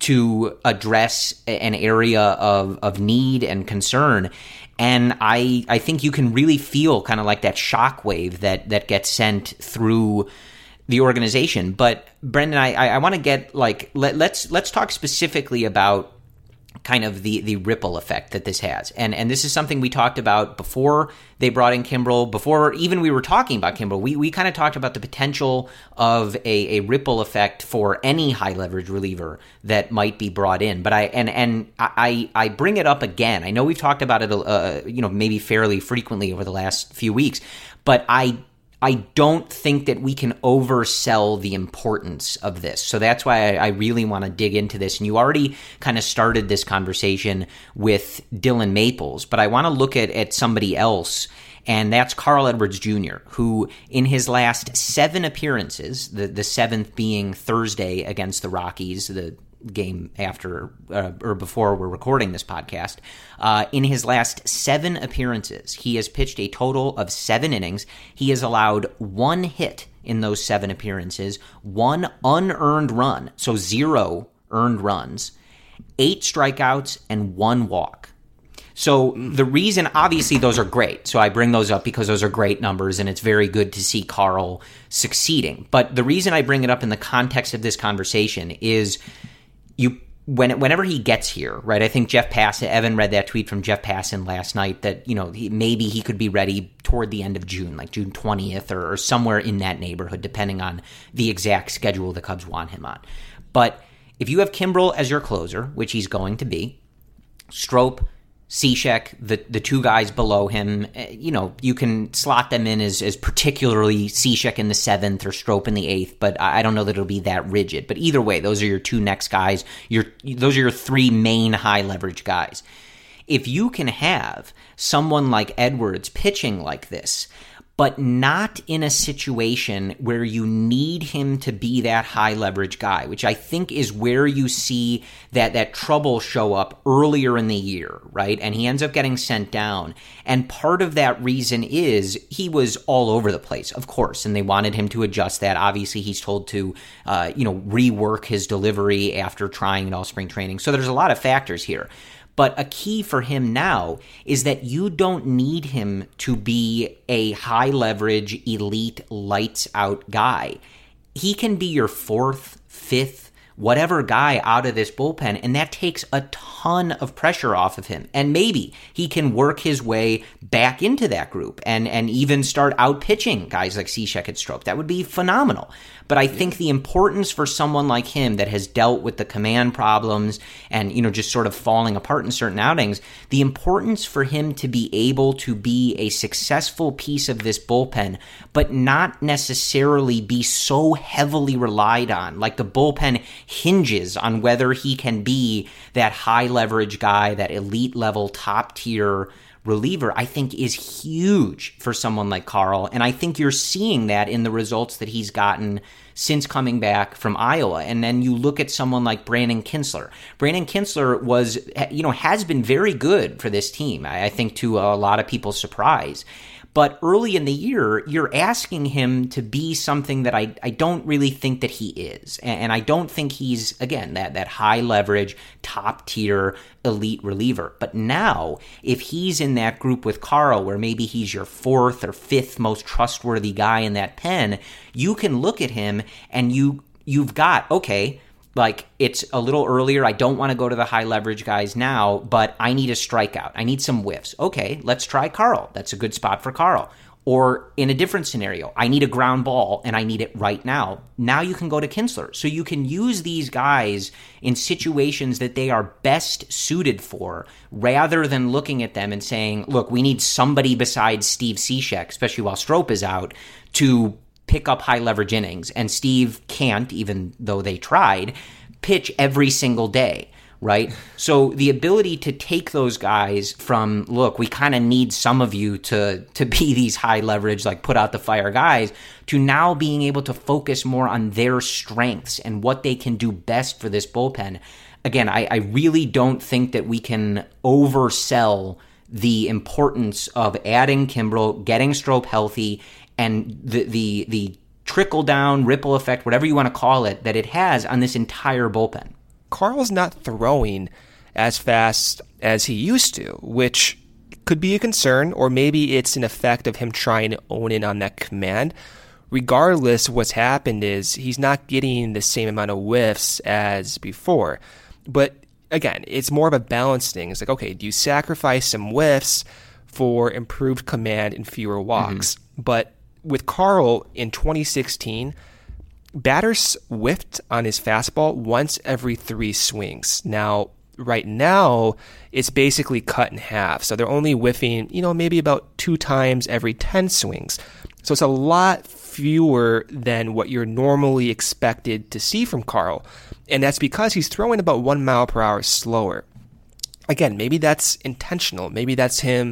[SPEAKER 5] to address an area of, of need and concern. And I I think you can really feel kind of like that shockwave that, that gets sent through the organization. But Brendan, I, I, I want to get like, let, let's let's talk specifically about kind of the, the ripple effect that this has. And and this is something we talked about before they brought in Kimbrell, before even we were talking about Kimbrell. We we kind of talked about the potential of a, a ripple effect for any high leverage reliever that might be brought in. But I and and I I bring it up again. I know we've talked about it, uh, you know, maybe fairly frequently over the last few weeks, but I I don't think that we can oversell the importance of this. So that's why I, I really want to dig into this. And you already kind of started this conversation with Dylan Maples, but I want to look at, at somebody else and that's Carl Edwards Junior, who in his last seven appearances, the, the seventh being Thursday against the Rockies, the game after uh, or before we're recording this podcast, uh, in his last seven appearances, he has pitched a total of seven innings. He has allowed one hit in those seven appearances, one unearned run, so zero earned runs, eight strikeouts, and one walk. So the reason, obviously, those are great. So I bring those up because those are great numbers, and it's very good to see Carl succeeding. But the reason I bring it up in the context of this conversation is you when whenever he gets here, right? I think Jeff Passan, Evan read that tweet from Jeff Passan last night that, you know, he, maybe he could be ready toward the end of June, like June twentieth or, or somewhere in that neighborhood, depending on the exact schedule the Cubs want him on. But if you have Kimbrel as your closer, which he's going to be, Strop, Cishek, the the two guys below him, you know, you can slot them in as, as particularly Cishek in the seventh or Strop in the eighth, but I don't know that it'll be that rigid. But either way, those are your two next guys. Your those are your three main high leverage guys. If you can have someone like Edwards pitching like this, but not in a situation where you need him to be that high leverage guy, which I think is where you see that that trouble show up earlier in the year, right? And he ends up getting sent down. And part of that reason is he was all over the place, of course, and they wanted him to adjust that. Obviously, he's told to, uh, you know, rework his delivery after trying it all spring training. So there's a lot of factors here. But a key for him now is that you don't need him to be a high leverage, elite, lights out guy. He can be your fourth, fifth, whatever guy out of this bullpen, and that takes a ton of pressure off of him. And maybe he can work his way back into that group and, and even start out pitching guys like Cishek and Strop. That would be phenomenal. But I think the importance for someone like him that has dealt with the command problems and, you know, just sort of falling apart in certain outings, the importance for him to be able to be a successful piece of this bullpen, but not necessarily be so heavily relied on. Like the bullpen hinges on whether he can be that high leverage guy, that elite level, top tier reliever, I think is huge for someone like Carl. And I think you're seeing that in the results that he's gotten since coming back from Iowa. And then you look at someone like Brandon Kintzler. Brandon Kintzler was, you know, has been very good for this team, I think to a lot of people's surprise. But early in the year, you're asking him to be something that I, I don't really think that he is. And I don't think he's, again, that, that high leverage, top tier, elite reliever. But now, if he's in that group with Carl, where maybe he's your fourth or fifth most trustworthy guy in that pen, you can look at him and you, you've got, okay, like, it's a little earlier. I don't want to go to the high leverage guys now, but I need a strikeout. I need some whiffs. Okay, let's try Carl. That's a good spot for Carl. Or in a different scenario, I need a ground ball and I need it right now. Now you can go to Kintzler. So you can use these guys in situations that they are best suited for, rather than looking at them and saying, look, we need somebody besides Steve Cishek, especially while Strop is out, to pick up high leverage innings. And Steve can't, even though they tried, pitch every single day, right? So the ability to take those guys from, look, we kind of need some of you to to be these high leverage, like put out the fire guys, to now being able to focus more on their strengths and what they can do best for this bullpen. Again, I, I really don't think that we can oversell the importance of adding Kimbrel, getting Strop healthy, and the the the trickle down, ripple effect, whatever you want to call it, that it has on this entire bullpen.
[SPEAKER 6] Carl's not throwing as fast as he used to, which could be a concern, or maybe it's an effect of him trying to own in on that command. Regardless, what's happened is he's not getting the same amount of whiffs as before. But again, it's more of a balance thing. It's like, okay, do you sacrifice some whiffs for improved command and fewer walks? Mm-hmm. But with Carl in twenty sixteen, batters whiffed on his fastball once every three swings. Now, right now, it's basically cut in half. So they're only whiffing, you know, maybe about two times every ten swings. So it's a lot fewer than what you're normally expected to see from Carl. And that's because he's throwing about one mile per hour slower. Again, maybe that's intentional. Maybe that's him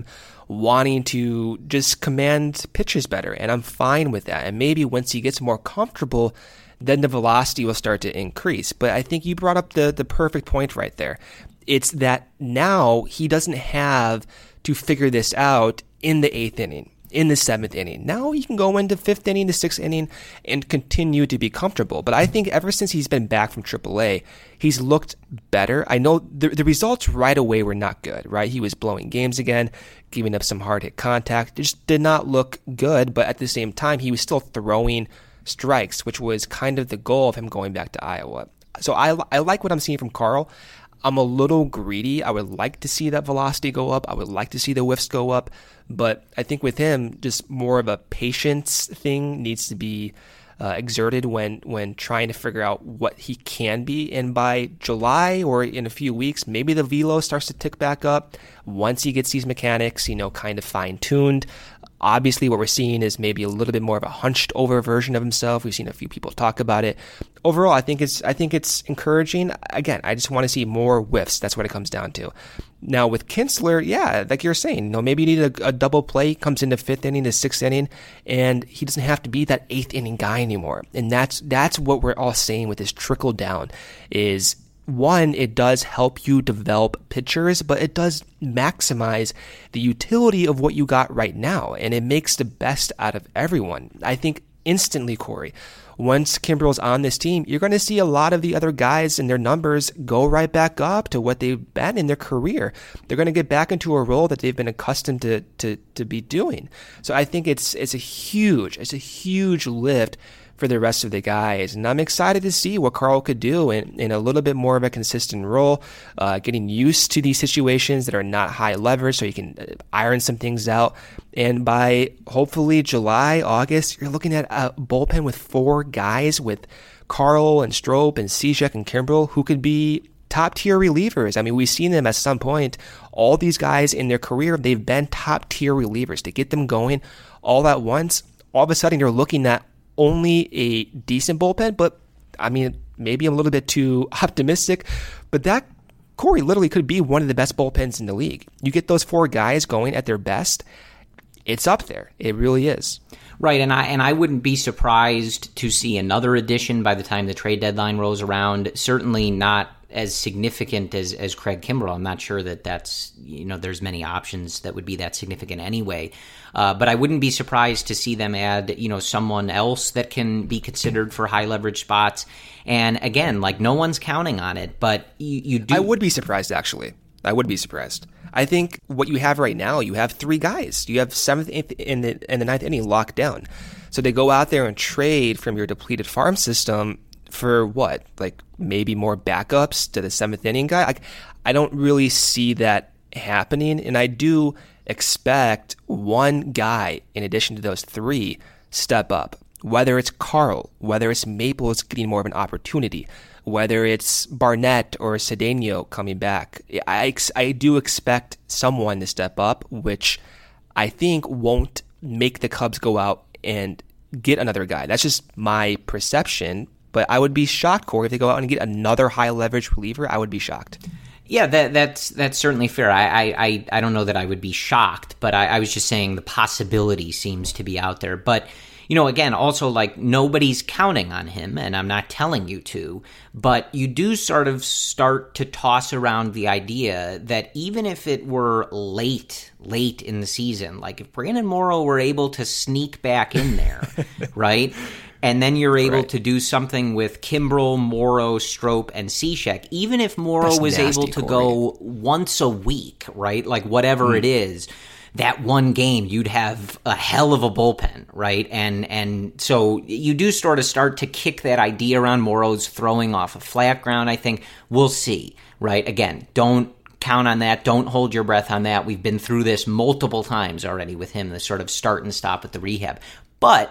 [SPEAKER 6] wanting to just command pitches better, and I'm fine with that. And maybe once he gets more comfortable, then the velocity will start to increase. But I think you brought up the, the perfect point right there. It's that now he doesn't have to figure this out in the eighth inning, in the seventh inning. Now he can go into fifth inning, the sixth inning, and continue to be comfortable. But I think ever since he's been back from triple A, he's looked better. I know the, the results right away were not good, right? He was blowing games again, giving up some hard hit contact. It just did not look good, but at the same time, he was still throwing strikes, which was kind of the goal of him going back to Iowa. So I, I like what I'm seeing from Carl. I'm a little greedy. I would like to see that velocity go up. I would like to see the whiffs go up. But I think with him, just more of a patience thing needs to be uh, exerted when, when trying to figure out what he can be. And by July or in a few weeks, maybe the velo starts to tick back up once he gets these mechanics, you know, kind of fine-tuned. Obviously, what we're seeing is maybe a little bit more of a hunched over version of himself. We've seen a few people talk about it. Overall, I think it's I think it's encouraging. Again, I just want to see more whiffs. That's what it comes down to. Now with Kinsler, yeah, like you're saying, you know, maybe you need a, a double play, comes into fifth inning to sixth inning, and he doesn't have to be that eighth inning guy anymore. And that's that's what we're all saying with this trickle down is. One, it does help you develop pitchers, but it does maximize the utility of what you got right now, and it makes the best out of everyone. I think instantly, Corey, once Kimbrel's on this team, you're going to see a lot of the other guys and their numbers go right back up to what they've been in their career. They're going to get back into a role that they've been accustomed to to to be doing. So I think it's it's a huge, it's a huge lift for the rest of the guys. And I'm excited to see what Carl could do in, in a little bit more of a consistent role, uh, getting used to these situations that are not high leverage so you can iron some things out. And by hopefully July, August, you're looking at a bullpen with four guys with Carl and Strop and Cishek and Kimbrel who could be top tier relievers. I mean, we've seen them at some point. All these guys in their career, they've been top tier relievers. To get them going all at once, all of a sudden you're looking at only a decent bullpen, but I mean, maybe I'm a little bit too optimistic, but that, Corey, literally could be one of the best bullpens in the league. You get those four guys going at their best, it's up there. It really is.
[SPEAKER 5] Right, and I and I wouldn't be surprised to see another addition by the time the trade deadline rolls around. Certainly not as significant as, as Craig Kimbrel. I'm not sure that that's, you know, there's many options that would be that significant anyway. Uh, but I wouldn't be surprised to see them add, you know, someone else that can be considered for high leverage spots. And again, like no one's counting on it, but you, you do.
[SPEAKER 6] I would be surprised, actually. I would be surprised. I think what you have right now, you have three guys. You have seventh in the, in the ninth inning locked down. So they go out there and trade from your depleted farm system for what? Like maybe more backups to the seventh inning guy? Like, I don't really see that happening. And I do expect one guy in addition to those three step up. Whether it's Carl, whether it's Maples getting more of an opportunity, whether it's Barnett or Cedeno coming back. I, I do expect someone to step up, which I think won't make the Cubs go out and get another guy. That's just my perception. But I would be shocked, Corey, if they go out and get another high leverage reliever. I would be shocked.
[SPEAKER 5] Yeah, that, that's that's certainly fair. I, I, I don't know that I would be shocked, but I, I was just saying the possibility seems to be out there. But, you know, again, also like nobody's counting on him, and I'm not telling you to, but you do sort of start to toss around the idea that even if it were late, late in the season, like if Brandon Morrow were able to sneak back in there, right? And then you're able right. to do something with Kimbrel, Morrow, Strop, and Cishek. Even if Morrow That's was nasty, able to Corey. go once a week, right? Like whatever mm. it is, that one game, you'd have a hell of a bullpen, right? And and so you do sort of start to kick that idea around Morrow's throwing off a flat ground, I think. We'll see, right? Again, don't count on that. Don't hold your breath on that. We've been through this multiple times already with him, the sort of start and stop at the rehab. But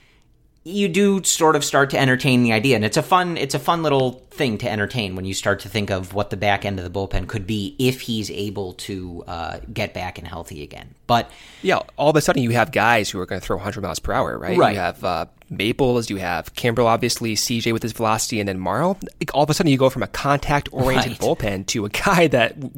[SPEAKER 5] you do sort of start to entertain the idea, and it's a fun it's a fun little thing to entertain when you start to think of what the back end of the bullpen could be if he's able to uh, get back and healthy again. But
[SPEAKER 6] yeah, all of a sudden you have guys who are going to throw one hundred miles per hour, right?
[SPEAKER 5] Right.
[SPEAKER 6] You have uh, Maples, you have Kimbrel, obviously, C J with his velocity, and then Morrow. All of a sudden you go from a contact-oriented right. bullpen to a guy that with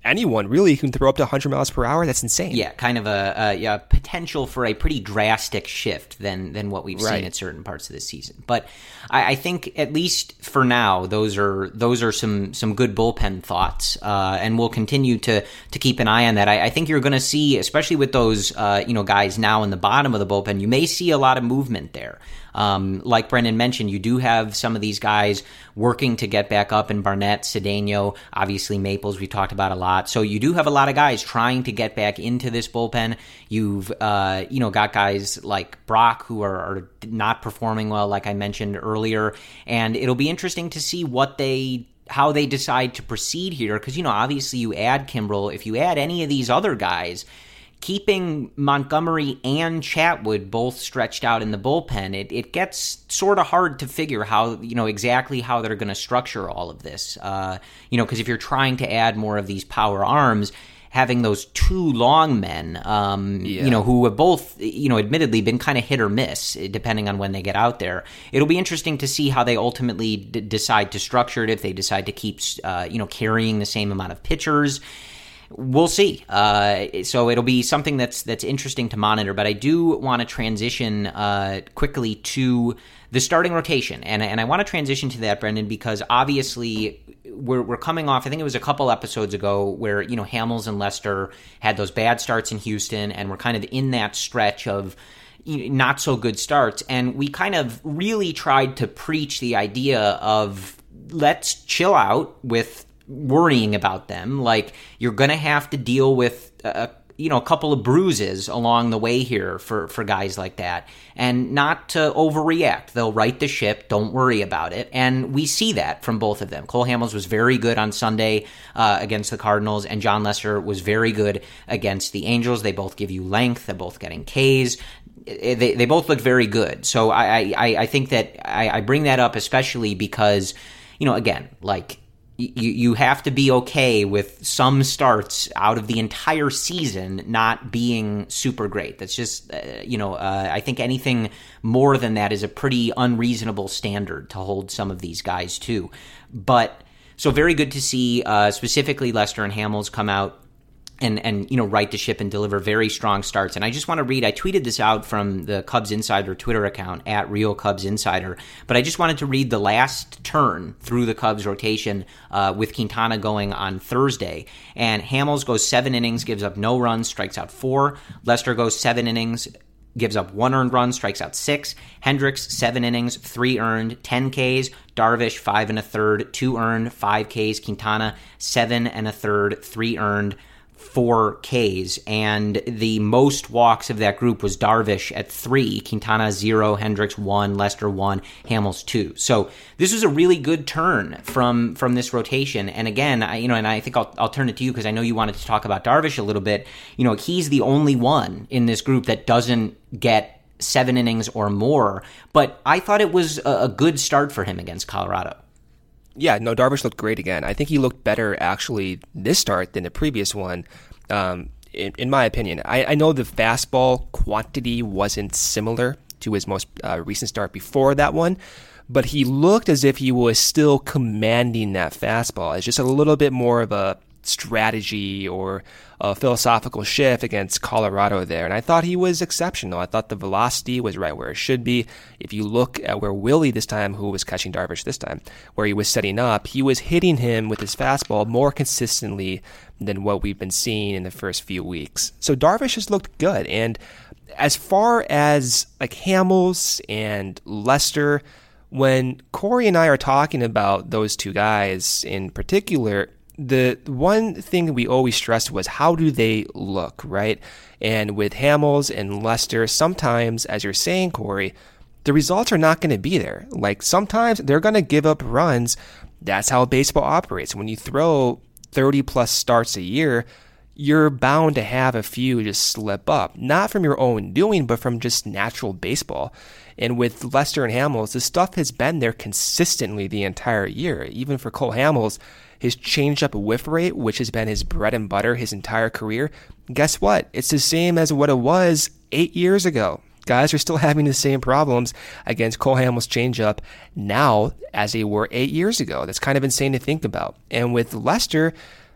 [SPEAKER 6] anyone really can throw up to one hundred miles per hour. That's insane.
[SPEAKER 5] Yeah, kind of a, a yeah, potential for a pretty drastic shift than than what we've right. seen at certain parts of this season. But I, I think at least for now, those are those are some some good bullpen thoughts, uh, and we'll continue to to keep an eye on that. I, I think you're going to see, especially with those uh, you know guys now in the bottom of the bullpen, you may see a lot of movement there. Um, like Brendan mentioned, you do have some of these guys working to get back up in Barnett, Cedeno, obviously Maples we talked about a lot. So you do have a lot of guys trying to get back into this bullpen. You've, uh, you know, got guys like Brock who are, are not performing well, like I mentioned earlier. And it'll be interesting to see what they how they decide to proceed here. Because, you know, obviously you add Kimbrel. If you add any of these other guys, keeping Montgomery and Chatwood both stretched out in the bullpen, it, it gets sort of hard to figure how, you know, exactly how they're going to structure all of this. Uh, you know, because if you're trying to add more of these power arms, having those two long men, um, yeah. you know, who have both, you know, admittedly been kind of hit or miss depending on when they get out there. It'll be interesting to see how they ultimately d- decide to structure it, if they decide to keep, uh, you know, carrying the same amount of pitchers. We'll see. Uh, so it'll be something that's that's interesting to monitor. But I do want to transition uh, quickly to the starting rotation, and and I want to transition to that, Brendan, because obviously we're we're coming off. I think it was a couple episodes ago where you know Hamels and Lester had those bad starts in Houston, and we're kind of in that stretch of not so good starts, and we kind of really tried to preach the idea of let's chill out with worrying about them. Like, you're going to have to deal with a, you know, a couple of bruises along the way here for, for guys like that, and not to overreact. They'll right the ship. Don't worry about it. And we see that from both of them. Cole Hamels was very good on Sunday uh, against the Cardinals, and Jon Lester was very good against the Angels. They both give you length. They're both getting Ks. They they both look very good. So I I, I think that I, I bring that up especially because, you know, again, like, You you have to be okay with some starts out of the entire season not being super great. That's just, uh, you know, uh, I think anything more than that is a pretty unreasonable standard to hold some of these guys to. But so very good to see uh, specifically Lester and Hamels come out and, and you know, right the ship and deliver very strong starts. And I just want to read, I tweeted this out from the Cubs Insider Twitter account, at Real Cubs Insider, but I just wanted to read the last turn through the Cubs rotation uh, with Quintana going on Thursday. And Hamels goes seven innings, gives up no runs, strikes out four. Lester goes seven innings, gives up one earned run, strikes out six. Hendricks, seven innings, three earned, ten Ks. Darvish, five and a third, two earned, five Ks. Quintana, seven and a third, three earned, four Ks, and the most walks of that group was Darvish at three, Quintana zero, Hendricks one, Lester one, Hamels two. So this was a really good turn from from this rotation. And again, I, you know, and I think I'll I'll turn it to you because I know you wanted to talk about Darvish a little bit. You know, he's the only one in this group that doesn't get seven innings or more. But I thought it was a, a good start for him against Colorado.
[SPEAKER 6] Yeah, no, Darvish looked great again. I think he looked better, actually, this start than the previous one, um, in, in my opinion. I, I know the fastball quantity wasn't similar to his most uh, recent start before that one, but he looked as if he was still commanding that fastball. It's just a little bit more of a strategy or a philosophical shift against Colorado there. And I thought he was exceptional. I thought the velocity was right where it should be. If you look at where Willie this time, who was catching Darvish this time, where he was setting up, he was hitting him with his fastball more consistently than what we've been seeing in the first few weeks. So Darvish has looked good. And as far as like Hamels and Lester, when Corey and I are talking about those two guys in particular, the one thing we always stressed was how do they look, right? And with Hamels and Lester, sometimes, as you're saying, Corey, the results are not going to be there. Like, sometimes they're going to give up runs. That's how baseball operates. When you throw thirty plus starts a year, you're bound to have a few just slip up. Not from your own doing, but from just natural baseball. And with Lester and Hamels, the stuff has been there consistently the entire year. Even for Cole Hamels, his changeup whiff rate, which has been his bread and butter his entire career, guess what? It's the same as what it was eight years ago. Guys are still having the same problems against Cole Hamels' changeup now as they were eight years ago. That's kind of insane to think about. And with Lester,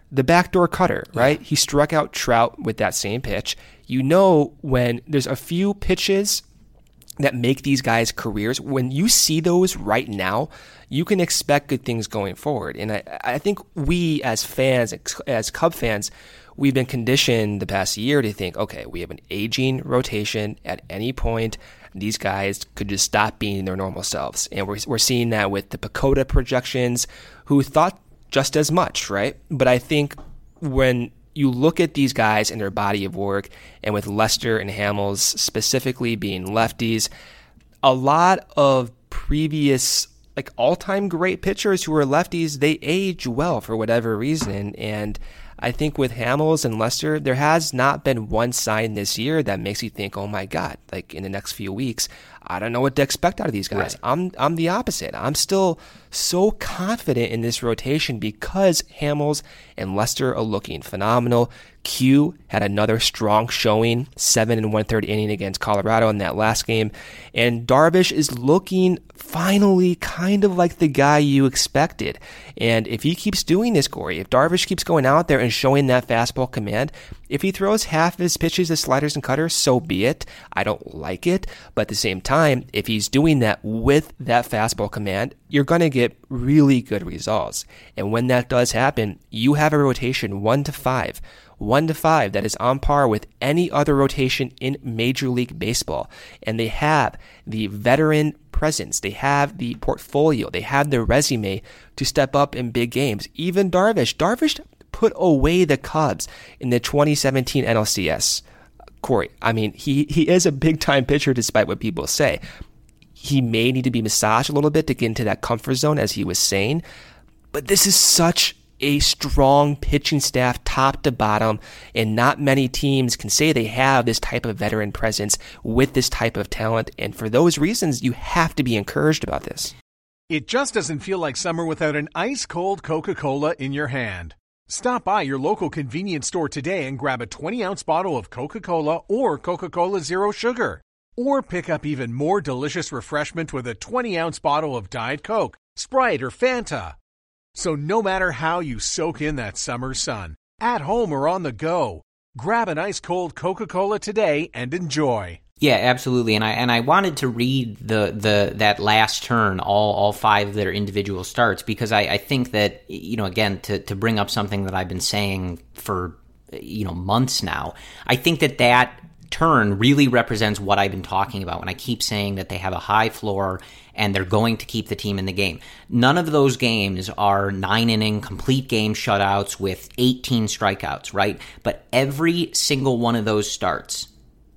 [SPEAKER 6] the backdoor cutter, right? Yeah. He struck out Trout with that same pitch. You know, when there's a few pitches that make these guys careers, when you see those right now, you can expect good things going forward. And I, I think we as fans, as Cub fans, we've been conditioned the past year to think, okay, we have an aging rotation. At any point, these guys could just stop being their normal selves. And we're, we're seeing that with the PECOTA projections, who thought just as much, right? But I think when you look at these guys and their body of work, and with Lester and Hamels specifically being lefties, a lot of previous like all-time great pitchers who are lefties, they age well for whatever reason. And I think with Hamels and Lester, there has not been one sign this year that makes you think, oh my God, like in the next few weeks, I don't know what to expect out of these guys. Right. I'm I'm the opposite. I'm still so confident in this rotation because Hamels and Lester are looking phenomenal. Q had another strong showing, seven and one-third inning against Colorado in that last game. And Darvish is looking finally kind of like the guy you expected. And if he keeps doing this, Corey, if Darvish keeps going out there and showing that fastball command, if he throws half of his pitches as sliders and cutters, so be it. I don't like it. But at the same time, if he's doing that with that fastball command, you're going to get really good results. And when that does happen, you have a rotation one to five. One to five that is on par with any other rotation in Major League Baseball. And they have the veteran presence. They have the portfolio. They have the resume to step up in big games. Even Darvish. Darvish put away the Cubs in the twenty seventeen N L C S. Corey, I mean, he, he is a big-time pitcher despite what people say. He may need to be massaged a little bit to get into that comfort zone, as he was saying. But this is such a strong pitching staff top to bottom, and not many teams can say they have this type of veteran presence with this type of talent. And for those reasons, you have to be encouraged about this.
[SPEAKER 4] It just doesn't feel like summer without an ice-cold Coca-Cola in your hand. Stop by your local convenience store today and grab a twenty-ounce bottle of Coca-Cola or Coca-Cola Zero Sugar. Or pick up even more delicious refreshment with a twenty-ounce bottle of Diet Coke, Sprite, or Fanta. So no matter how you soak in that summer sun, at home or on the go, grab an ice-cold Coca-Cola today and enjoy.
[SPEAKER 5] Yeah, absolutely. And I and I wanted to read the the that last turn, all all five of their individual starts, because I, I think that, you know, again, to, to bring up something that I've been saying for, you know, months now, I think that that turn really represents what I've been talking about when I keep saying that they have a high floor and they're going to keep the team in the game. None of those games are nine-inning complete game shutouts with eighteen strikeouts, right? But every single one of those starts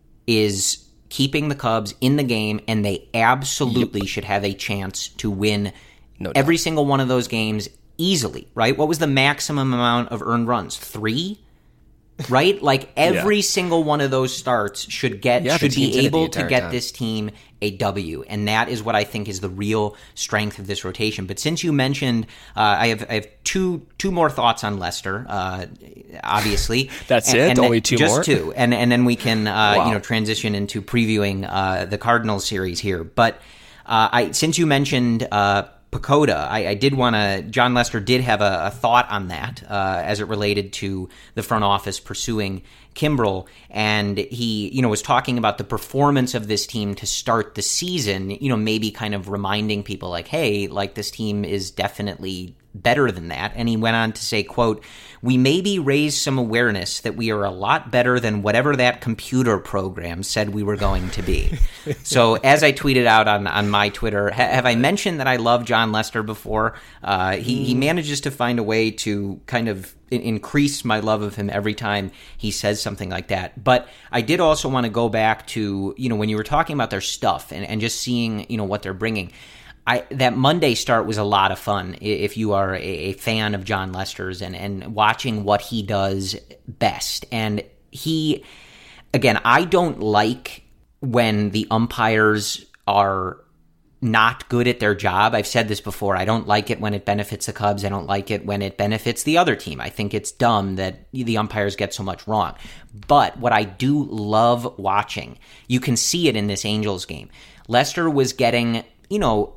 [SPEAKER 5] is keeping the Cubs in the game, and they absolutely yep. should have a chance to win no every doubt. single one of those games easily, right? What was the maximum amount of earned runs? Three? Right? Like every yeah. single one of those starts should get yeah, should be able to get time. this team a W, and that is what I think is the real strength of this rotation. But since you mentioned, uh, I have I have two two more thoughts on Lester. Uh, obviously,
[SPEAKER 6] that's
[SPEAKER 5] and,
[SPEAKER 6] it.
[SPEAKER 5] And
[SPEAKER 6] Only two
[SPEAKER 5] just
[SPEAKER 6] more,
[SPEAKER 5] just two, and and then we can uh,
[SPEAKER 6] wow.
[SPEAKER 5] you know transition into previewing uh, the Cardinals series here. But uh, I since you mentioned. Uh, PECOTA, I, I did want to, John Lester did have a, a thought on that uh, as it related to the front office pursuing Kimbrel, and he, you know, was talking about the performance of this team to start the season, you know, maybe kind of reminding people like, hey, like this team is definitely better than that. And he went on to say, quote, "We maybe raised some awareness that we are a lot better than whatever that computer program said we were going to be." So as I tweeted out on, on my Twitter, ha- have I mentioned that I love John Lester before? Uh, he, he manages to find a way to kind of in- increase my love of him every time he says something like that. But I did also want to go back to, you know, when you were talking about their stuff and, and just seeing, you know, what they're bringing. I, that Monday start was a lot of fun if you are a, a fan of John Lester's and, and watching what he does best. And he, again, I don't like when the umpires are not good at their job. I've said this before. I don't like it when it benefits the Cubs. I don't like it when it benefits the other team. I think it's dumb that the umpires get so much wrong. But what I do love watching, you can see it in this Angels game. Lester was getting, you know,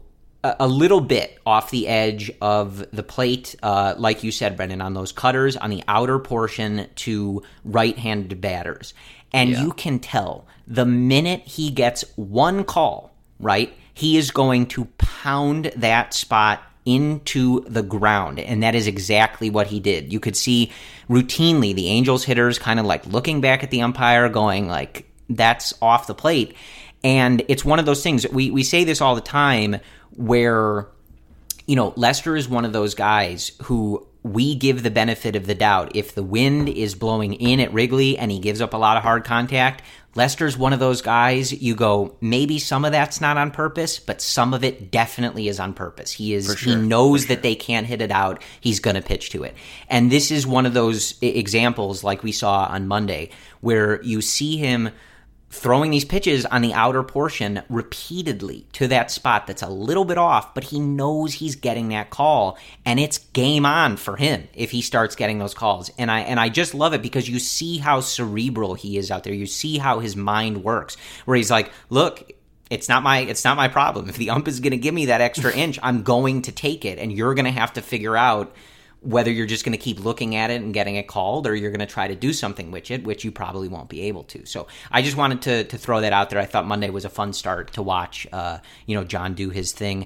[SPEAKER 5] a, a little bit off the edge of the plate, uh, like you said, Brendan, on those cutters on the outer portion to right-handed batters. And yeah. you can tell the minute he gets one call, right, he is going to pound that spot into the ground, and that is exactly what he did. You could see routinely the Angels hitters kind of like looking back at the umpire going like, that's off the plate. And it's one of those things, we, we say this all the time, where, you know, Lester is one of those guys who we give the benefit of the doubt. If the wind is blowing in at Wrigley and he gives up a lot of hard contact, Lester's one of those guys, you go, maybe some of that's not on purpose, but some of it definitely is on purpose. He is, sure, he knows that they can't hit it out. He's going to pitch to it. And this is one of those examples like we saw on Monday where you see him throwing these pitches on the outer portion repeatedly to that spot that's a little bit off, but he knows he's getting that call, and it's game on for him if he starts getting those calls. And I and I just love it because you see how cerebral he is out there. You see how his mind works, where he's like, look, it's not my it's not my problem. If the ump is going to give me that extra inch, I'm going to take it, and you're going to have to figure out whether you're just going to keep looking at it and getting it called, or you're going to try to do something with it, which you probably won't be able to. So I just wanted to to throw that out there. I thought Monday was a fun start to watch, uh, you know, John do his thing.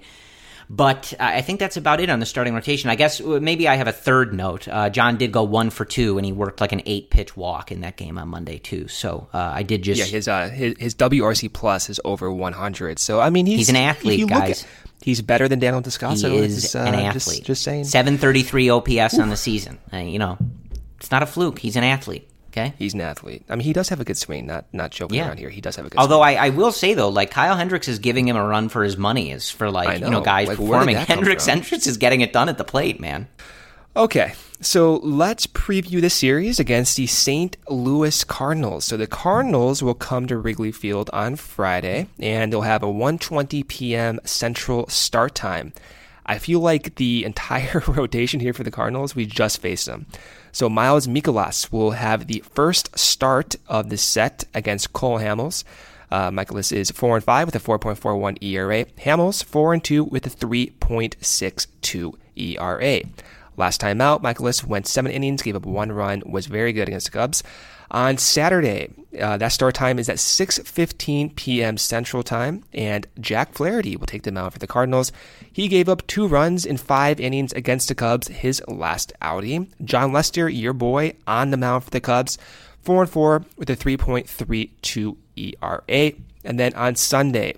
[SPEAKER 5] But I think that's about it on the starting rotation. I guess maybe I have a third note. Uh, John did go one for two, and he worked like an eight-pitch walk in that game on Monday too. So uh, I did just...
[SPEAKER 6] Yeah, his, uh, his his W R C plus is over one hundred. So, I mean, he's...
[SPEAKER 5] He's an athlete, guys.
[SPEAKER 6] At, he's better than Daniel Descalso.
[SPEAKER 5] He is
[SPEAKER 6] uh,
[SPEAKER 5] an athlete.
[SPEAKER 6] Just, just saying.
[SPEAKER 5] seven thirty-three O P S Oof. On the season. Uh, you know, it's not a fluke. He's an athlete. Okay.
[SPEAKER 6] He's an athlete. I mean, he does have a good swing. Not not joking
[SPEAKER 5] yeah.
[SPEAKER 6] around here. He does have a good
[SPEAKER 5] Although
[SPEAKER 6] swing.
[SPEAKER 5] Although I, I will say, though, like Kyle Hendricks is giving him a run for his money is for, like, know. you know, guys like, performing. Hendricks Hendricks is getting it done at the plate, man.
[SPEAKER 6] Okay, so let's preview the series against the Saint Louis Cardinals. So the Cardinals will come to Wrigley Field on Friday, and they'll have a one twenty p.m. Central start time. I feel like the entire rotation here for the Cardinals, we just faced them. So Miles Mikolas will have the first start of the set against Cole Hamels. Uh, Mikolas is four and five with a four point four one E R A. Hamels four and two with a three point six two E R A. Last time out, Mikolas went seven innings, gave up one run, was very good against the Cubs. On Saturday, uh, that start time is at six fifteen p.m. Central Time, and Jack Flaherty will take the mound for the Cardinals. He gave up two runs in five innings against the Cubs his last outing. John Lester, your boy, on the mound for the Cubs, four and four with a three point three two E R A. And then on Sunday,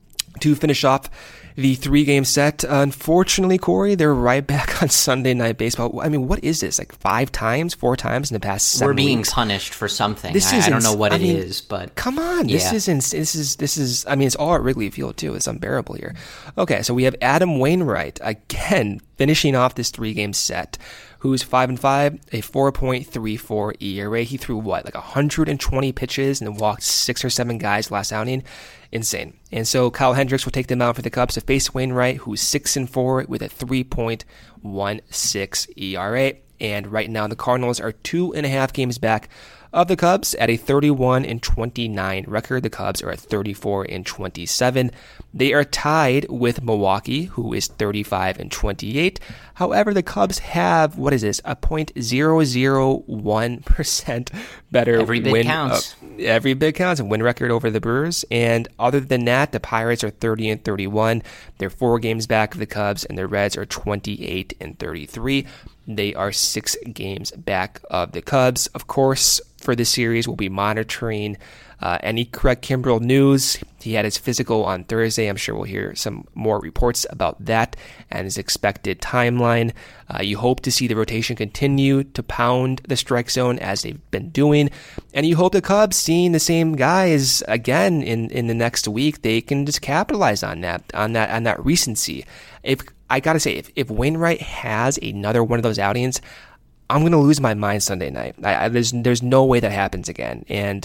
[SPEAKER 6] to finish off the three-game set, unfortunately, Corey, they're right back on Sunday Night Baseball. I mean, what is this? Like five times, four times in the past seven
[SPEAKER 5] We're being
[SPEAKER 6] weeks?
[SPEAKER 5] punished for something.
[SPEAKER 6] This
[SPEAKER 5] I,
[SPEAKER 6] is
[SPEAKER 5] I don't know what
[SPEAKER 6] I
[SPEAKER 5] it
[SPEAKER 6] mean,
[SPEAKER 5] is, but
[SPEAKER 6] come on,
[SPEAKER 5] yeah.
[SPEAKER 6] this isn't. This is this is. I mean, it's all at Wrigley Field too. It's unbearable here. Okay, so we have Adam Wainwright again finishing off this three-game set, who's five and five, a four point three four E R A. He threw what, like one hundred twenty pitches and then walked six or seven guys last outing. Insane. And so Kyle Hendricks will take them out for the Cubs to face Wainwright, who's six and four with a three point one six E R A. And right now the Cardinals are two and a half games back of the Cubs at a thirty-one and twenty-nine record. The Cubs are at thirty-four and twenty-seven. They are tied with Milwaukee, who is thirty-five and twenty-eight. However, the Cubs have, what is this, a zero point zero zero one percent better
[SPEAKER 5] every bit
[SPEAKER 6] win.
[SPEAKER 5] counts.
[SPEAKER 6] Uh, every bit counts and win record over the Brewers. And other than that, the Pirates are thirty and thirty-one. They're four games back of the Cubs, and the Reds are twenty-eight and thirty-three. They are six games back of the Cubs. Of course, for this series, we'll be monitoring uh, any Craig Kimbrell news. He had his physical on Thursday. I'm sure we'll hear some more reports about that and his expected timeline. Uh, you hope to see the rotation continue to pound the strike zone as they've been doing. And you hope the Cubs, seeing the same guys again in, in the next week, they can just capitalize on that, on that, on that recency. If I got to say, if, if Wainwright has another one of those outings, I'm going to lose my mind Sunday night. I, I, there's there's no way that happens again. And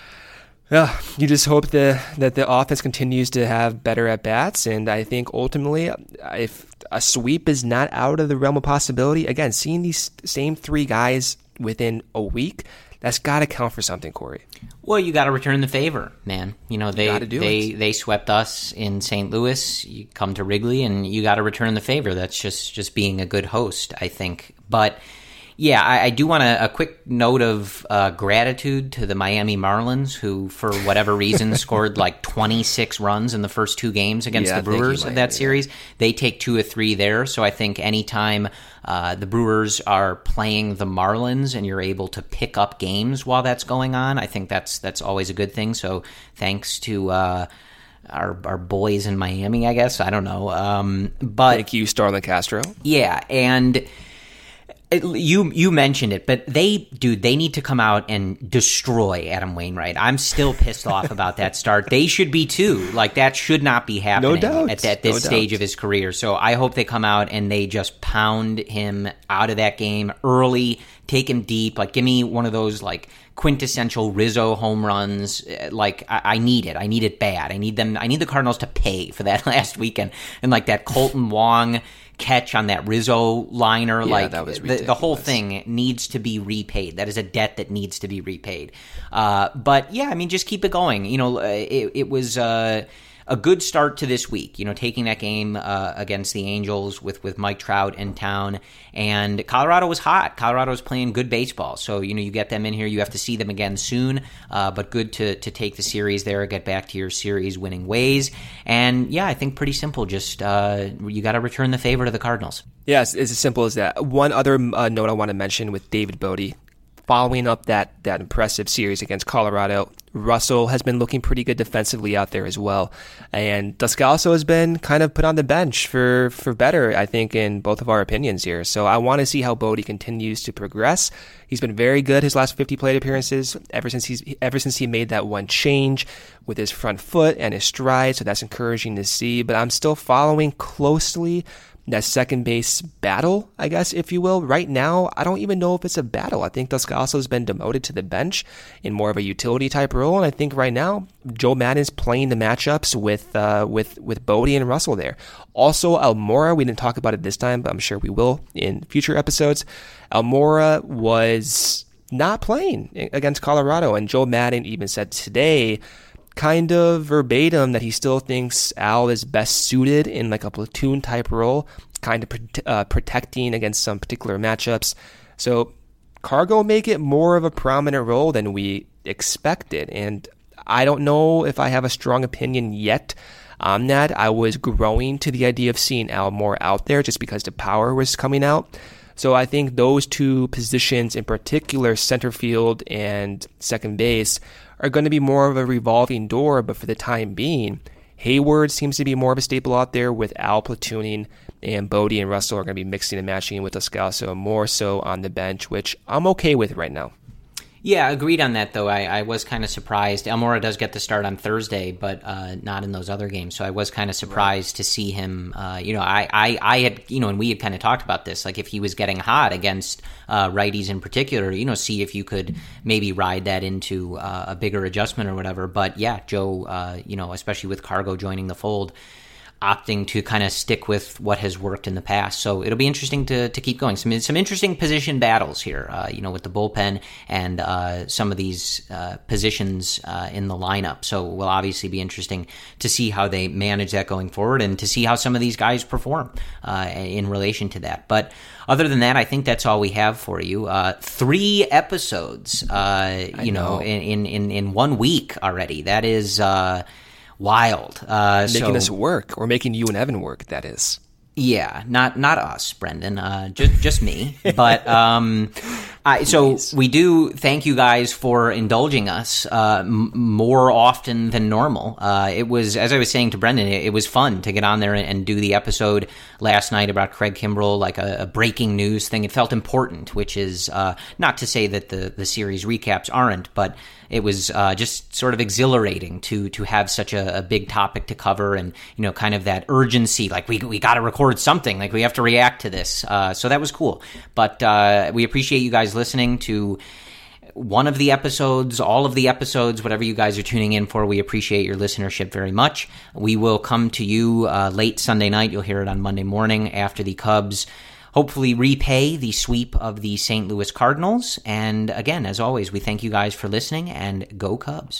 [SPEAKER 6] uh, you just hope the, that the offense continues to have better at-bats. And I think ultimately, if a sweep is not out of the realm of possibility, again, seeing these same three guys within a week, That's got to count for something, Corey.
[SPEAKER 5] Well, you got to return the favor, man. You know, they
[SPEAKER 6] you
[SPEAKER 5] they
[SPEAKER 6] it.
[SPEAKER 5] they swept us in Saint Louis. You come to Wrigley, and you got to return the favor. That's just just being a good host, I think. But yeah, I, I do want a, a quick note of uh, gratitude to the Miami Marlins, who, for whatever reason, scored like twenty-six runs in the first two games against
[SPEAKER 6] yeah,
[SPEAKER 5] the Brewers
[SPEAKER 6] you,
[SPEAKER 5] of that series. They take two or three there. So I think anytime uh, the Brewers are playing the Marlins and you're able to pick up games while that's going on, I think that's that's always a good thing. So thanks to uh, our our boys in Miami, I guess. I don't know. Um, but
[SPEAKER 6] Thank you, Starlin Castro.
[SPEAKER 5] Yeah, and It, you you mentioned it, but they, dude, they need to come out and destroy Adam Wainwright. I'm still pissed off about that start. They should be too. Like, that should not be happening
[SPEAKER 6] no doubt.
[SPEAKER 5] at, at this
[SPEAKER 6] no
[SPEAKER 5] stage
[SPEAKER 6] doubt.
[SPEAKER 5] of his career. So I hope they come out and they just pound him out of that game early, take him deep. Like, give me one of those, like, quintessential Rizzo home runs. Like, I, I need it. I need it bad. I need them. I need the Cardinals to pay for that last weekend. And, like, that Colton Wong catch on that Rizzo liner,
[SPEAKER 6] yeah,
[SPEAKER 5] like
[SPEAKER 6] that was
[SPEAKER 5] the, the whole thing needs to be repaid. That is a debt that needs to be repaid. Uh, but yeah, I mean, just keep it going. You know, it, it was uh, a good start to this week, you know, taking that game uh, against the Angels with, with Mike Trout in town. And Colorado was hot. Colorado was playing good baseball. So, you know, you get them in here. You have to see them again soon. Uh, but good to, to take the series there, get back to your series winning ways. And yeah, I think pretty simple. Just uh, you got to return the favor to the Cardinals.
[SPEAKER 6] Yeah, it's, it's as simple as that. One other uh, note I want to mention with David Bote. Following up that, that impressive series against Colorado, Russell has been looking pretty good defensively out there as well. And Descalso has been kind of put on the bench for, for better, I think, in both of our opinions here. So I want to see how Bote continues to progress. He's been very good his last fifty plate appearances ever since he's ever since he made that one change with his front foot and his stride. So that's encouraging to see. But I'm still following closely that second base battle, I guess, if you will. Right now, I don't even know if it's a battle. I think Descalso has been demoted to the bench in more of a utility type role, and I think right now Joe Maddon's playing the matchups with uh, with with Bote and Russell there. Also, Almora, we didn't talk about it this time, but I'm sure we will in future episodes. Almora was not playing against Colorado, and Joe Maddon even said today, kind of verbatim, that he still thinks Al is best suited in like a platoon type role, kind of uh, protecting against some particular matchups. So Cargo may get more of a prominent role than we expected. And I don't know if I have a strong opinion yet on that. I was growing to the idea of seeing Al more out there just because the power was coming out. So I think those two positions in particular, center field and second base, are going to be more of a revolving door, but for the time being, Hayward seems to be more of a staple out there with Al platooning, and Bote and Russell are going to be mixing and matching with Descalso more so on the bench, which I'm okay with right now.
[SPEAKER 5] Yeah, agreed on that, though. I, I was kind of surprised. Almora does get the start on Thursday, but uh, not in those other games. So I was kind of surprised right. to see him. Uh, you know, I, I, I had, you know, and we had kind of talked about this, like if he was getting hot against uh, righties in particular, you know, see if you could maybe ride that into uh, a bigger adjustment or whatever. But yeah, Joe, uh, you know, especially with Cargo joining the fold, opting to kind of stick with what has worked in the past. So it'll be interesting to to keep going. Some some interesting position battles here, uh, you know, with the bullpen and uh, some of these uh, positions uh, in the lineup. So it will obviously be interesting to see how they manage that going forward and to see how some of these guys perform uh, in relation to that. But other than that, I think that's all we have for you. Uh, three episodes, uh, you know, know. In, in, in one week already. That is... Uh, Wild. Uh,
[SPEAKER 6] making
[SPEAKER 5] so,
[SPEAKER 6] us work, or making you and Evan work, that is.
[SPEAKER 5] Yeah, not not us, Brendan, uh, just just me. But um, I, so we do thank you guys for indulging us uh, m- more often than normal. Uh, it was, as I was saying to Brendan, it, it was fun to get on there and, and do the episode last night about Craig Kimbrell, like a, a breaking news thing. It felt important, which is uh, not to say that the, the series recaps aren't, but it was uh, just sort of exhilarating to to have such a, a big topic to cover, and you know, kind of that urgency, like we we got to record something, like we have to react to this. Uh, so that was cool. But uh, we appreciate you guys listening to one of the episodes, all of the episodes, whatever you guys are tuning in for. We appreciate your listenership very much. We will come to you uh, late Sunday night. You'll hear it on Monday morning after the Cubs hopefully repay the sweep of the Saint Louis Cardinals. And again, as always, we thank you guys for listening, and go Cubs.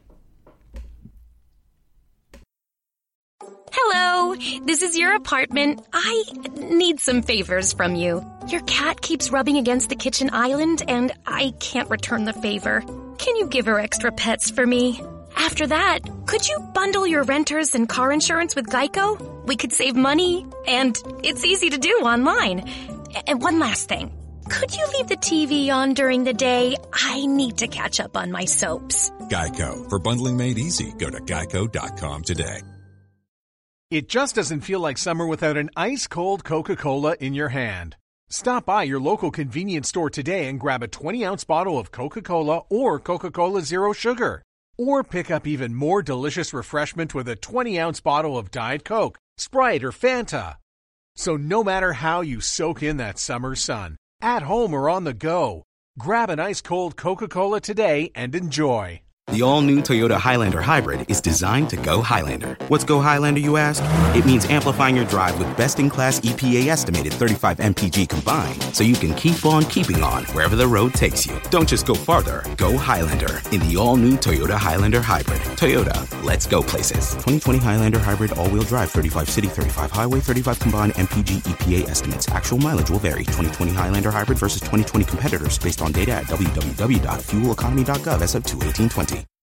[SPEAKER 7] Hello, this is your apartment. I need some favors from you. Your cat keeps rubbing against the kitchen island, and I can't return the favor. Can you give her extra pets for me? After that, could you bundle your renters and car insurance with Geico? We could save money, and it's easy to do online. And one last thing. Could you leave the T V on during the day? I need to catch up on my soaps.
[SPEAKER 8] Geico. For bundling made easy, go to geico dot com today.
[SPEAKER 4] It just doesn't feel like summer without an ice-cold Coca-Cola in your hand. Stop by your local convenience store today and grab a twenty-ounce bottle of Coca-Cola or Coca-Cola Zero Sugar. Or pick up even more delicious refreshment with a twenty-ounce bottle of Diet Coke, Sprite, or Fanta. So no matter how you soak in that summer sun, at home or on the go, grab an ice-cold Coca-Cola today and enjoy.
[SPEAKER 9] The all-new Toyota Highlander Hybrid is designed to go Highlander. What's go Highlander, you ask? It means amplifying your drive with best-in-class E P A estimated thirty-five M P G combined, so you can keep on keeping on wherever the road takes you. Don't just go farther, go Highlander in the all-new Toyota Highlander Hybrid. Toyota, let's go places. twenty twenty Highlander Hybrid all-wheel drive, thirty-five city, thirty-five highway, thirty-five combined M P G E P A estimates. Actual mileage will vary. twenty twenty Highlander Hybrid versus twenty twenty competitors based on data at w w w dot fuel economy dot gov as of two eighteen twenty.